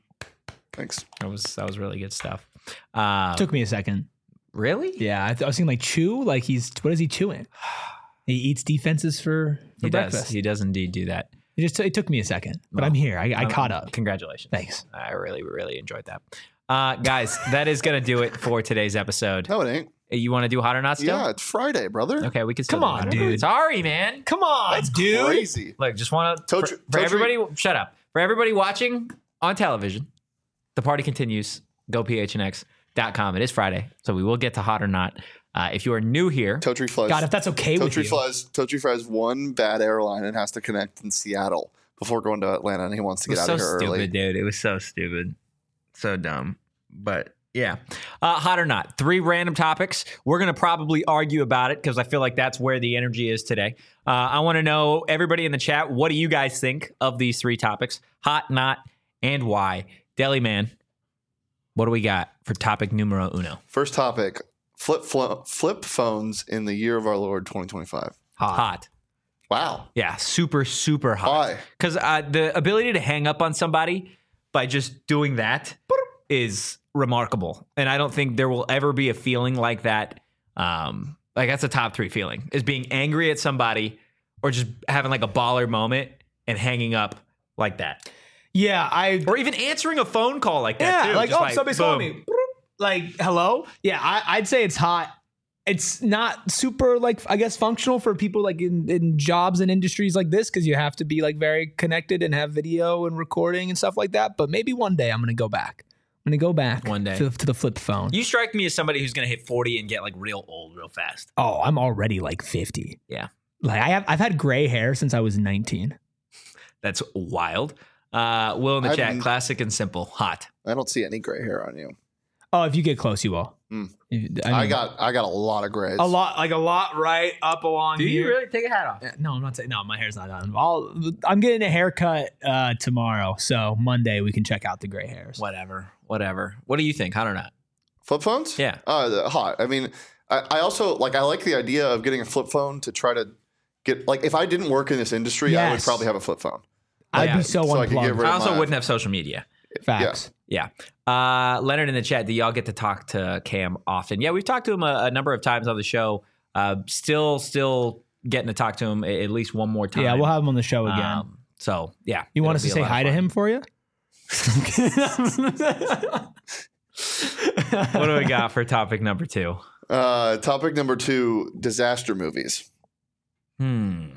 C: Thanks.
B: that was that was really good stuff. Uh,
A: Took me a second.
B: really?
A: Yeah, I, th- I was thinking like chew. Like he's what is he chewing? He eats defenses for, for
B: He
A: breakfast.
B: does. He does indeed do that.
A: It just it took me a second, but
B: Well,
A: I'm here. I, I
B: Um,
A: caught up.
B: Congratulations.
A: Thanks.
B: I really, really enjoyed that. Uh, guys, that is going to do it for today's episode.
C: No, it ain't.
B: You want to do hot or not still?
C: Yeah, it's Friday, brother.
B: Okay, we can still
A: Come
B: do
A: on,
B: it.
A: dude.
B: Sorry, man.
A: Come on,
C: That's
A: dude.
C: crazy.
B: Look, just want to
C: Told
B: for,
C: you-
B: for
C: told you-
B: everybody. Shut up. For everybody watching on television, the party continues. Go P H N X dot com. It is Friday, so we will get to hot or not. Uh, if you are new here,
C: Totri flies.
A: God, if that's okay with
C: Totri
A: you.
C: flies. Totri flies one bad airline and has to connect in Seattle before going to Atlanta, and he wants to
B: it
C: get
B: was
C: out
B: so
C: of here
B: stupid,
C: early.
B: dude. It was so stupid, so dumb. But yeah, uh, hot or not, three random topics. We're gonna probably argue about it because I feel like that's where the energy is today. Uh, I want to know, everybody in the chat, what do you guys think of these three topics? Hot, not, and why? Deli Man, what do we got for topic numero uno?
C: First topic: flip flo- flip phones in the year of our Lord twenty twenty-five.
A: Hot.
B: Hot.
C: Wow.
B: Yeah, super, super hot.
C: Why?
B: Because uh, the ability to hang up on somebody by just doing that is remarkable. And I don't think there will ever be a feeling like that um, Like that's a top three feeling is being angry at somebody or just having like a baller moment and hanging up like that.
A: Yeah, I
B: or even answering a phone call like that
A: yeah,
B: too.
A: like
B: just
A: oh,
B: like,
A: somebody's
B: boom.
A: calling me. Like hello. Yeah, I, I'd say it's hot. It's not super like I guess functional for people like in, in jobs and industries like this because you have to be like very connected and have video and recording and stuff like that. But maybe one day I'm gonna go back. I'm gonna go back
B: One day.
A: to, to the flip phone.
B: You strike me as somebody who's gonna hit forty and get like real old real fast.
A: Oh, I'm already like fifty.
B: Yeah,
A: Like I have I've had gray hair since I was nineteen.
B: that's wild. Uh, Will in the
C: I
B: chat,
C: didn't-
B: classic and simple, hot.
C: I don't see any gray hair on you.
A: Oh, if you get close, you will.
C: Mm.
A: If-
C: I,
A: I, mean,
C: got I got a lot of grays.
A: a lot, like a lot, right up along here.
B: take a hat off?
A: Yeah, No, I'm not saying. No, my hair's not done. I'll, I'm getting a haircut uh, tomorrow, so Monday we can check out the gray hairs.
B: Whatever, whatever. What do you think? Hot or not?
C: Flip phones?
B: Yeah.
C: Uh, the- hot. I mean, I, I also like I like the idea of getting a flip phone to try to get like if I didn't work in this industry, I would
A: Yes.
C: probably have a flip phone.
A: I'd
B: Yeah.
A: be so,
C: So I could get
A: unplugged.
C: rid
B: I
C: of
B: also
C: my-
B: wouldn't have social media.
A: Facts.
B: Yeah. Uh, Leonard in the chat, do y'all get to talk to Cam often? Yeah, we've talked to him a, a number of times on the show. Uh, still, still getting to talk to him a- at least one more time.
A: Yeah, we'll have him on the show again.
B: Um, so, yeah.
A: you want
B: it'll
A: us to
B: be a
A: say
B: lot of
A: hi to
B: fun.
A: him for you?
B: What do we got for topic number two?
C: Uh, topic number two: disaster movies.
B: Hmm.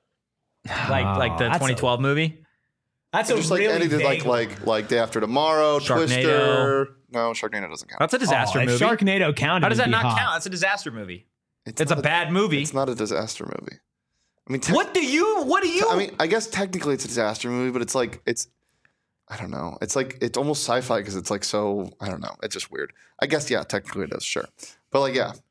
B: Like like the
A: Oh, that's a-
B: twenty twelve movie?
A: That's
C: Just like any like like like Day After Tomorrow,
B: Sharknado.
C: Twister. No, Sharknado doesn't count.
B: That's a disaster
A: oh, if
B: movie.
A: Sharknado counted.
B: How does that
A: it'd be
B: not
A: hot.
B: count? That's a disaster movie. It's, a
C: not
B: bad movie.
C: It's not a disaster movie. I mean, te-
B: What do you? What do you?
C: I mean, I guess technically it's a disaster movie, but it's like it's. I don't know. It's like it's almost sci-fi because it's like so. I don't know. It's just weird. I guess yeah, technically it is sure, but like yeah,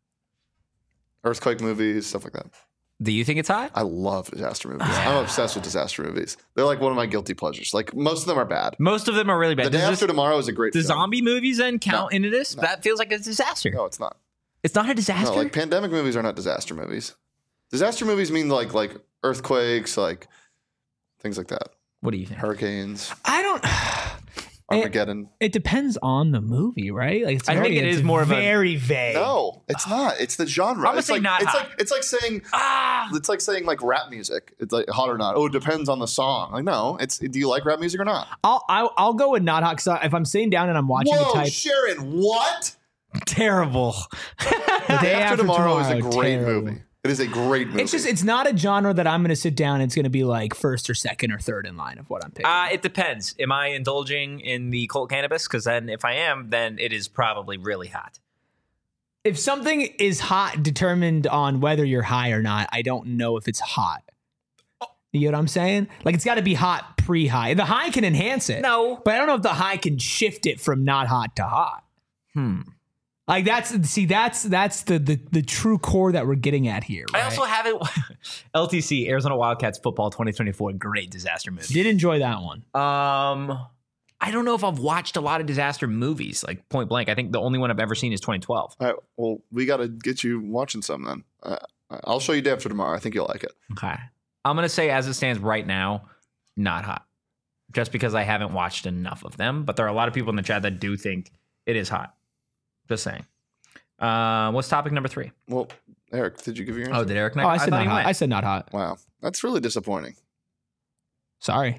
C: earthquake movies, stuff like that.
B: do you think it's hot?
C: I love disaster movies. I'm obsessed with disaster movies. They're like one of my guilty pleasures. Like most of them are bad.
B: Most of them are really bad.
C: The Day
B: Does
C: After
B: this-
C: Tomorrow is a great.
B: the
C: film.
B: zombie movies then count
C: No.
B: into this?
C: No.
B: That feels like a disaster.
C: No, it's not.
B: It's not a disaster.
C: No, like pandemic movies are not disaster movies. Disaster movies mean like like earthquakes, like things like that.
B: what do you think?
C: Hurricanes,
A: I don't.
C: Armageddon.
A: It depends on the movie, right? Like it's
B: I think
A: very-
B: it
A: it's
B: is more of a-
A: very vague.
C: No, it's not. It's the genre.
B: I'm gonna
C: it's
B: say
C: like
B: not
C: it's
B: hot.
C: like it's like saying
B: Ah,
C: it's like saying like rap music. It's like hot or not. Oh, it depends on the song. Like no, it's do you like rap music or not?
A: I'll I'll, I'll go with not hot because if I'm sitting down and I'm watching
C: Whoa,
A: the type,
C: Sharon, what?
B: terrible.
A: the
C: Day After, Tomorrow, is a
A: Tomorrow,
C: great
A: terrible.
C: movie. It is a great movie.
A: It's just it's not a genre that I'm going to sit down. And it's going to be like first or second or third in line of what I'm picking.
B: Uh, it depends. Am I indulging in the cold cannabis? Because then, if I am, then it is probably really hot.
A: if something is hot determined on whether you're high or not, I don't know if it's hot. You know what I'm saying? Like it's got to be hot pre-high. The high can enhance it.
B: No.
A: But I don't know if the high can shift it from not hot to hot.
B: Hmm.
A: Like that's see that's that's the the the true core that we're getting at here.
B: I
A: Right?
B: also haven't. L T C Arizona Wildcats football twenty twenty-four. Great disaster movie.
A: did enjoy that one.
B: Um, I don't know if I've watched a lot of disaster movies, like point blank. I think the only one I've ever seen is twenty twelve.
C: All right, well, we got to get you watching some then. Uh, I'll show you Day After Tomorrow. I think you'll like it.
B: Okay. I'm gonna say, as it stands right now, not hot, just because I haven't watched enough of them. But there are a lot of people in the chat that do think it is hot. Just saying. Uh, what's topic number three?
C: Well, Eric, did you give your answer?
B: Oh, did Eric?
A: Oh, I said
B: thought
A: not
B: he
A: hot.
B: went.
A: I said not hot.
C: Wow, that's really disappointing.
A: Sorry.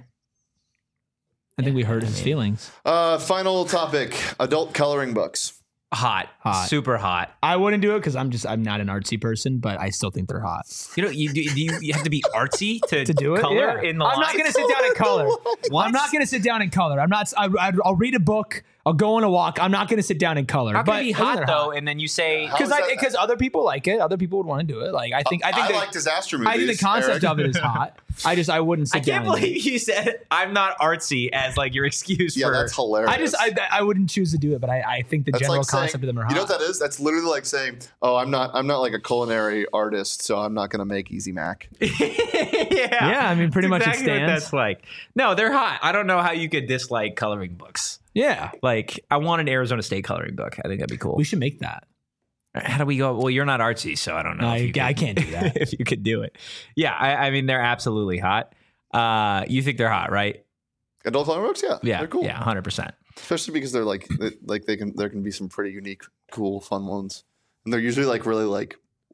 A: I think we hurt
B: I
A: his
B: mean-
A: feelings.
C: Uh, final topic: adult coloring books.
B: hot,
A: Hot.
B: super hot.
A: I wouldn't do it because I'm just I'm not an artsy person, but I still think they're hot.
B: You know, you do you, you have to be artsy to,
A: To do it,
B: color
A: yeah.
B: in the
A: I'm not
B: lines?
A: gonna sit down and color.
B: What?
A: I'm not gonna sit down and color. I'm not. I, I, I'll read a book. I'll go on a walk. I'm not gonna sit down and color.
B: How can
A: but
B: it be
A: I think
B: hot
A: they're
B: though? And then you say,
C: How
A: Because
C: is
A: I
C: that-
A: because other people like it. Other people would want to do it. Like I think I think
C: I
A: the,
C: like disaster movies.
A: I think the concept
C: Eric.
A: of it is hot. I just I wouldn't sit
B: I can't
A: down. and do it.
B: believe you said I'm not artsy as like your excuse
C: Yeah,
B: for.
C: that's hilarious.
A: I just I, I wouldn't choose to do it, but I, I think the
C: That's
A: general
C: like saying-
A: concept of them are hot.
C: You know what that is? That's literally like saying, "Oh, I'm not. I'm not like a culinary artist, so I'm not going to make Easy Mac."
B: yeah,
A: Yeah, I mean, pretty
B: That's
A: much it
B: exactly what
A: stands.
B: that's like. No, they're hot. I don't know how you could dislike coloring books.
A: Yeah,
B: Like, I want an Arizona State coloring book. I think that'd be cool.
A: we should make that.
B: How do we go? Well, you're not artsy, so I don't know.
A: No,
B: if you
A: I- I
B: could-
A: can't do that.
B: if you could do it, yeah. I, I mean, they're absolutely hot. Uh, you think they're hot, right?
C: Adult coloring books, yeah,
B: Yeah,
C: they're cool.
B: Yeah, hundred percent.
C: Especially because they're like, they, like they can. There can be some pretty unique, cool, fun ones, and they're usually like really like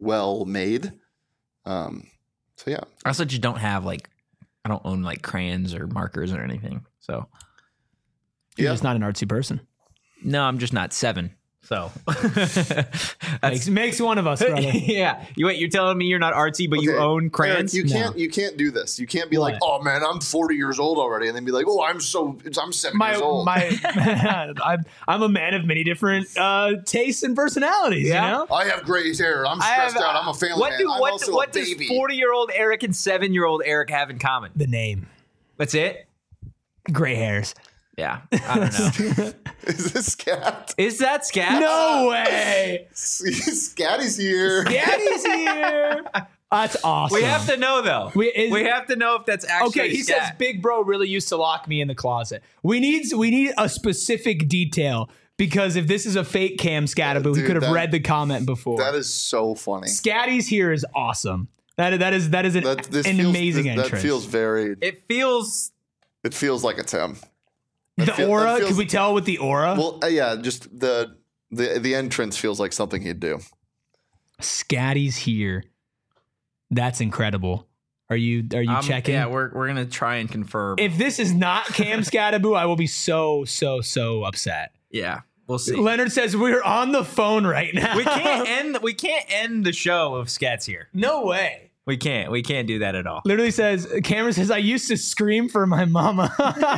C: well made. Um, so yeah.
B: I also just don't have like, I don't own like crayons or markers or anything. So
A: You're
C: Yeah.
A: just not an artsy person.
B: no, I'm just not seven. So
A: Makes, makes one of us, brother.
B: yeah. You wait, you're telling me you're not artsy, but you
C: Okay,
B: own
C: Eric,
B: crayons?
C: you
A: No.
C: can't you can't do this. You can't be
A: What?
C: like, oh man, I'm forty years old already, and then be like, oh, I'm so I'm seven
A: My
C: years old.
A: my, I'm I'm a man of many different uh, tastes and personalities.
B: Yeah.
A: You know,
C: I have gray hair. I'm
B: I
C: stressed
B: have-
C: out. I'm a family
B: what
C: man.
B: do
C: I'm
B: what,
C: also
B: what
C: a
B: does
C: baby.
B: forty year old Eric and seven year old Eric have in common?
A: the name,
B: That's it?
A: gray hairs.
B: Yeah. I don't know.
C: Is this Scat?
B: Is that scat?
A: No way,
C: Scatty's here.
A: Daddy's here. That's awesome.
B: We have to know though.
A: We-
B: We,
A: is-
B: have to know if that's actually
A: Okay, he
B: scat.
A: says Big Bro really used to lock me in the closet. We need we need a specific detail because if this is a fake Cam Scattaboo, he
C: Dude,
A: could have
C: that-
A: read the comment before.
C: That is so funny.
A: Scatty's here is awesome. That that is that is an,
C: That, this
A: an
C: feels,
A: amazing
C: this-
A: entrance.
C: That feels very.
B: It feels
C: It feels like it's him.
A: the
C: that feel- that
A: aura.
C: feels-
A: Could we tell with the aura?
C: Well, uh, yeah, just the the the entrance feels like something he'd do.
A: Scatty's here. That's incredible. Are you are you
B: um,
A: checking?
B: Yeah, we're we're gonna try and confirm.
A: If this is not Cam Scattaboo, I will be so so so upset.
B: yeah, we'll see.
A: Leonard says we're on the phone right now.
B: we can't end we can't end the show if Scat's here.
A: No way.
B: We can't. We can't do that at all.
A: Literally says, Cameron says, I used to scream for my mama.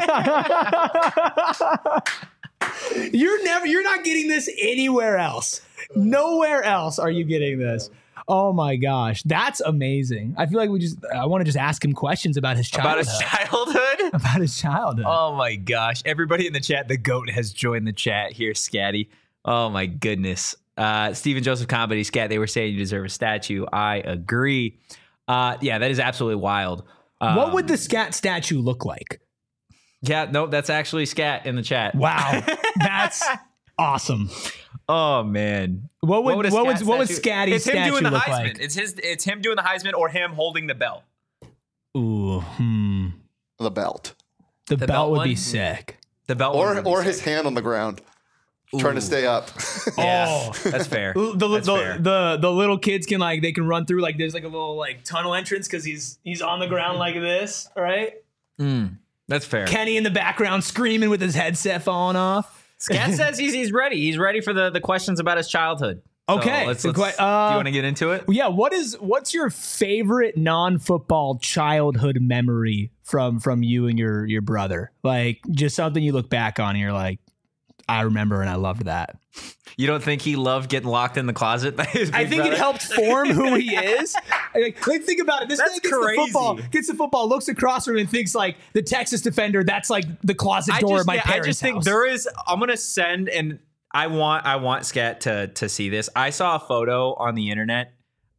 A: You're never, you're not getting this anywhere else. Nowhere else are you getting this. Oh my gosh. That's amazing. I feel like we just, I want to just ask him questions about his
B: About
A: childhood.
B: his childhood?
A: About his childhood.
B: Oh my gosh. Everybody in the chat, the GOAT has joined the chat here, Scatty. Oh my goodness. Uh, Stephen Joseph Comedy, Scat, they were saying you deserve a statue. I agree. Uh, yeah, that is absolutely wild. Um,
A: what would the Scat statue look like?
B: Yeah, no, that's actually Scat in the chat.
A: Wow. That's awesome.
B: Oh man.
A: What would,
B: a
A: what would,
B: Scat
A: what would
B: statue-
A: Scatty's
B: It's him
A: statue
B: doing the
A: look
B: Heisman.
A: like?
B: It's his it's him doing the Heisman or him holding the bell.
A: Ooh, hmm.
C: The belt,
A: The,
B: The
A: belt,
B: belt
A: would
B: one?
A: be sick.
B: The belt
C: or
B: would be
C: or
B: sick.
C: his hand on the ground, trying to stay up.
B: Yeah,
A: Oh.
B: that's fair.
A: The the,
B: That's
A: the,
B: fair.
A: the the little kids can like they can run through like there's like a little like tunnel entrance because he's he's on the ground like this, right?
B: Mm, that's fair.
A: Kenny in the background screaming with his headset falling off.
B: Scat says he's he's ready. He's ready for the, the questions about his childhood. So
A: Okay.
B: let's,
A: The
B: let's,
A: que- uh,
B: do you want to get into it?
A: Yeah, what is what's your favorite non-football childhood memory from from you and your your brother? Like just something you look back on and you're like, I remember and I loved that.
B: You don't think he loved getting locked in the closet by his big
A: I think
B: brother?
A: it helped form who he is. Like, like, think about it. This
B: That's
A: guy gets
B: crazy.
A: the football, gets the football, looks across from him, and thinks like the Texas defender. That's like the closet
B: I
A: door
B: just,
A: of my
B: yeah, I
A: parents'
B: just think
A: house.
B: there is. I'm gonna send and I want I want Scat to to see this. I saw a photo on the internet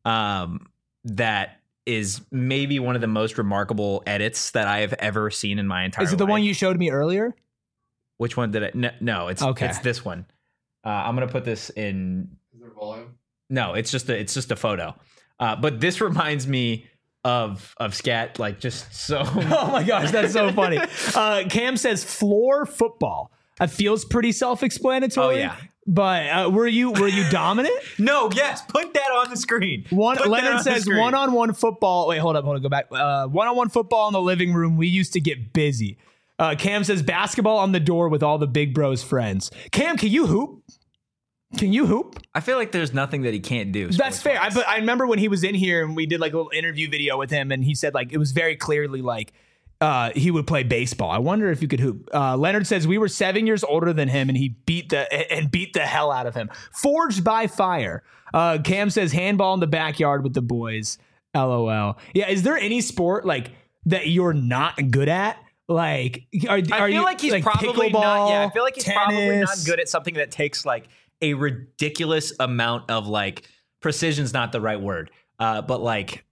B: um, that is maybe one of the most remarkable edits that I have ever seen in my entire.
A: Is it the
B: life.
A: one you showed me earlier?
B: Which one did I? No, no it's
A: Okay.
B: It's this one. Uh, I'm gonna put this in.
C: Is there volume?
B: No, it's just a it's just a photo. Uh, but this reminds me of of Scat like just so.
A: Oh my gosh, that's so funny. Uh, Cam says floor football. It feels pretty self-explanatory.
B: Oh, yeah.
A: But uh, were you were you dominant?
B: No, yes, put that on the screen.
A: One
B: Put that
A: Leonard
B: on the
A: says
B: screen.
A: one-on-one football. Wait, hold up, hold up, go back. Uh, one-on-one football in the living room. We used to get busy. Uh, Cam says basketball on the door with all the big bros friends. Cam, can you hoop? Can you hoop?
B: I feel like there's nothing that he can't do.
A: That's fair. I,
B: sports-wise.
A: but I remember when he was in here and we did like a little interview video with him, and he said like it was very clearly like uh, he would play baseball. I wonder if you could hoop. Uh, Leonard says we were seven years older than him, and he beat the and beat the hell out of him. Forged by fire. Uh, Cam says handball in the backyard with the boys. LOL. Yeah. Is there any sport like that you're not good at? Like, are,
B: I
A: are
B: feel
A: you
B: like he's probably not.
A: pickleball,
B: Yeah, I feel like he's probably not
A: tennis?
B: good at something that takes like a ridiculous amount of like precision's not the right word, uh, but like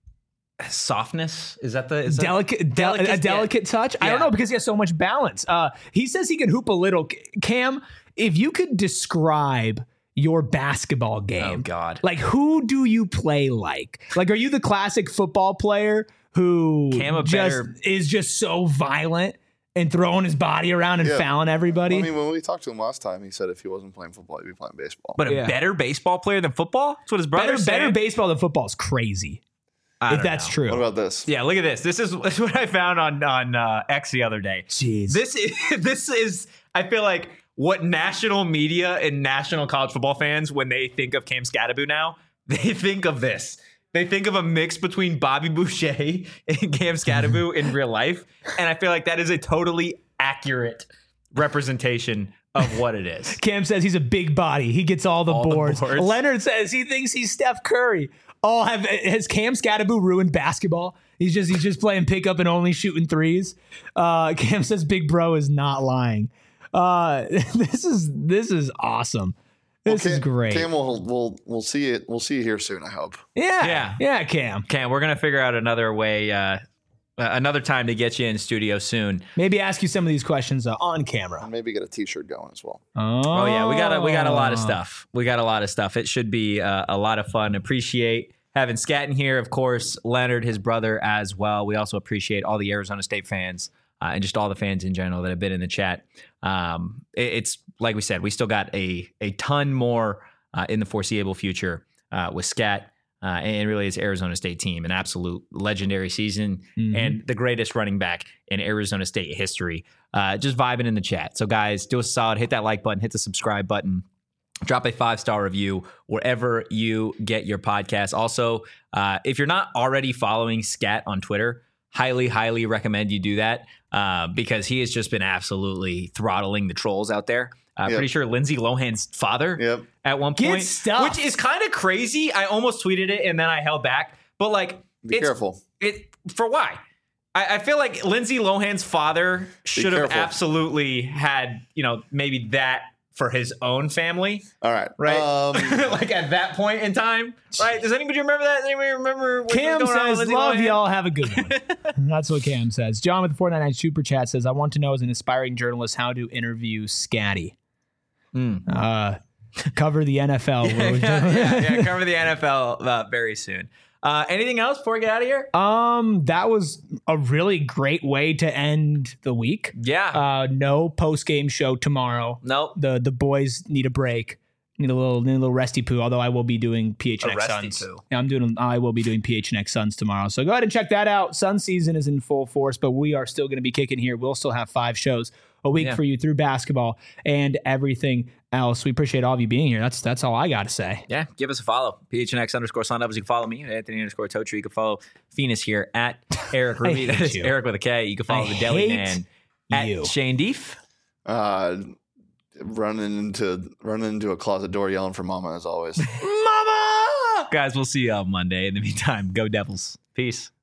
B: softness is that the is that,
A: delicate, del-
B: delicate-
A: a delicate touch. I don't
B: Yeah.
A: know because he has so much balance. Uh, he says he can hoop a little. Cam, if you could describe your basketball game,
B: Oh God.
A: like who do you play like? Like, are you the classic football player who
B: Cam a
A: just
B: better-
A: is just so violent and throwing his body around and
C: Yeah.
A: fouling everybody.
C: I mean, when we talked to him last time, he said if he wasn't playing football, he'd be playing baseball.
B: But a
A: Yeah.
B: better baseball player than football? That's what his brother
A: better,
B: said.
A: better baseball than football is crazy.
B: I
A: If
B: don't
A: that's
B: know.
A: true.
C: What about this?
B: Yeah, look at this. This is, this is what I found on on uh, X the other day.
A: Jeez.
B: This is this is I feel like what national media and national college football fans, when they think of Cam Scatterbu now, they think of this. They think of a mix between Bobby Boucher and Cam Scatterbu in real life, and I feel like that is a totally accurate representation of what it is.
A: Cam says he's a big body. He gets all the,
B: All the
A: boards.
B: boards.
A: Leonard says he thinks he's Steph Curry. Oh, have has Cam Scatterbu ruined basketball? He's just he's just playing pickup and only shooting threes. Uh, Cam says Big Bro is not lying. Uh, this is this is awesome. This
C: Cam,
A: is great.
C: Cam, we'll, we'll, we'll see it. We'll see you here soon, I hope.
A: yeah,
B: Yeah.
A: yeah, Cam.
B: Cam, we're gonna figure out another way, uh, uh, another time to get you in studio soon.
A: Maybe ask you some of these questions uh, on camera.
C: And maybe get a T-shirt going as well.
A: Oh,
B: Oh yeah, we got a, we got a lot of stuff. We got a lot of stuff. It should be uh, a lot of fun. Appreciate having Scat in here, of course. Leonard, his brother, as well. We also appreciate all the Arizona State fans uh, and just all the fans in general that have been in the chat. Um, it, it's like we said, we still got a a ton more uh, in the foreseeable future uh, with Scat. Uh, and really, it's Arizona State team, an absolute legendary season,
A: Mhm.
B: and the greatest running back in Arizona State history. Uh, just vibing in the chat. So, guys, do us a solid. Hit that like button. Hit the subscribe button. Drop a five-star review wherever you get your podcast. Also, uh, if you're not already following Scat on Twitter, highly, highly recommend you do that uh, because he has just been absolutely throttling the trolls out there. Uh,
C: Yep.
B: Pretty sure Lindsay Lohan's father
C: Yep.
B: at one
A: Get
B: point,
A: stuffed.
B: which is kind of crazy. I almost tweeted it and then I held back. But like,
C: Be
B: it's,
C: careful.
B: It for why? I, I feel like Lindsay Lohan's father should have
C: careful.
B: absolutely had, you know, maybe that for his own family,
C: All right.
B: right?
C: Um,
B: like at that point in time, right? Does anybody remember that? Does anybody remember what
A: Cam
B: was going on with
A: says,
B: Lindsay
A: love
B: Lohan?
A: y'all. Have a good one. That's what Cam says. John with the four ninety-nine Super Chat says, I want to know as an aspiring journalist how to interview Scatty.
B: Mm.
A: Uh, cover the N F L.
B: yeah, yeah, yeah, cover the N F L uh, very soon. Uh, anything else before we get out of here?
A: Um, that was a really great way to end the week.
B: Yeah.
A: Uh, no post game show tomorrow.
B: nope.
A: The the boys need a break. Need a little need a little resty poo. Although I will be doing P H N X
B: A resty
A: Suns.
B: poo.
A: Yeah, I'm doing. I will be doing P H N X Suns tomorrow. So go ahead and check that out. Sun season is in full force, but we are still going to be kicking here. We'll still have five shows a week
B: Yeah.
A: for you through basketball and everything else. We appreciate all of you being here. That's that's all I got to say.
B: Yeah, give us a follow. P H N X underscore sun levels. You can follow me at Anthony underscore Totri. You can follow Phoenix here at Eric Ruby.
A: hate
B: That is
A: you.
B: Eric with a K. You can follow
A: I
B: the Deli
A: hate
B: Man at
A: you.
B: Shane Deef.
C: uh, running into running into a closet door, yelling for mama as always.
B: Mama! Guys, we'll see you on Monday. In the meantime, go Devils. Peace.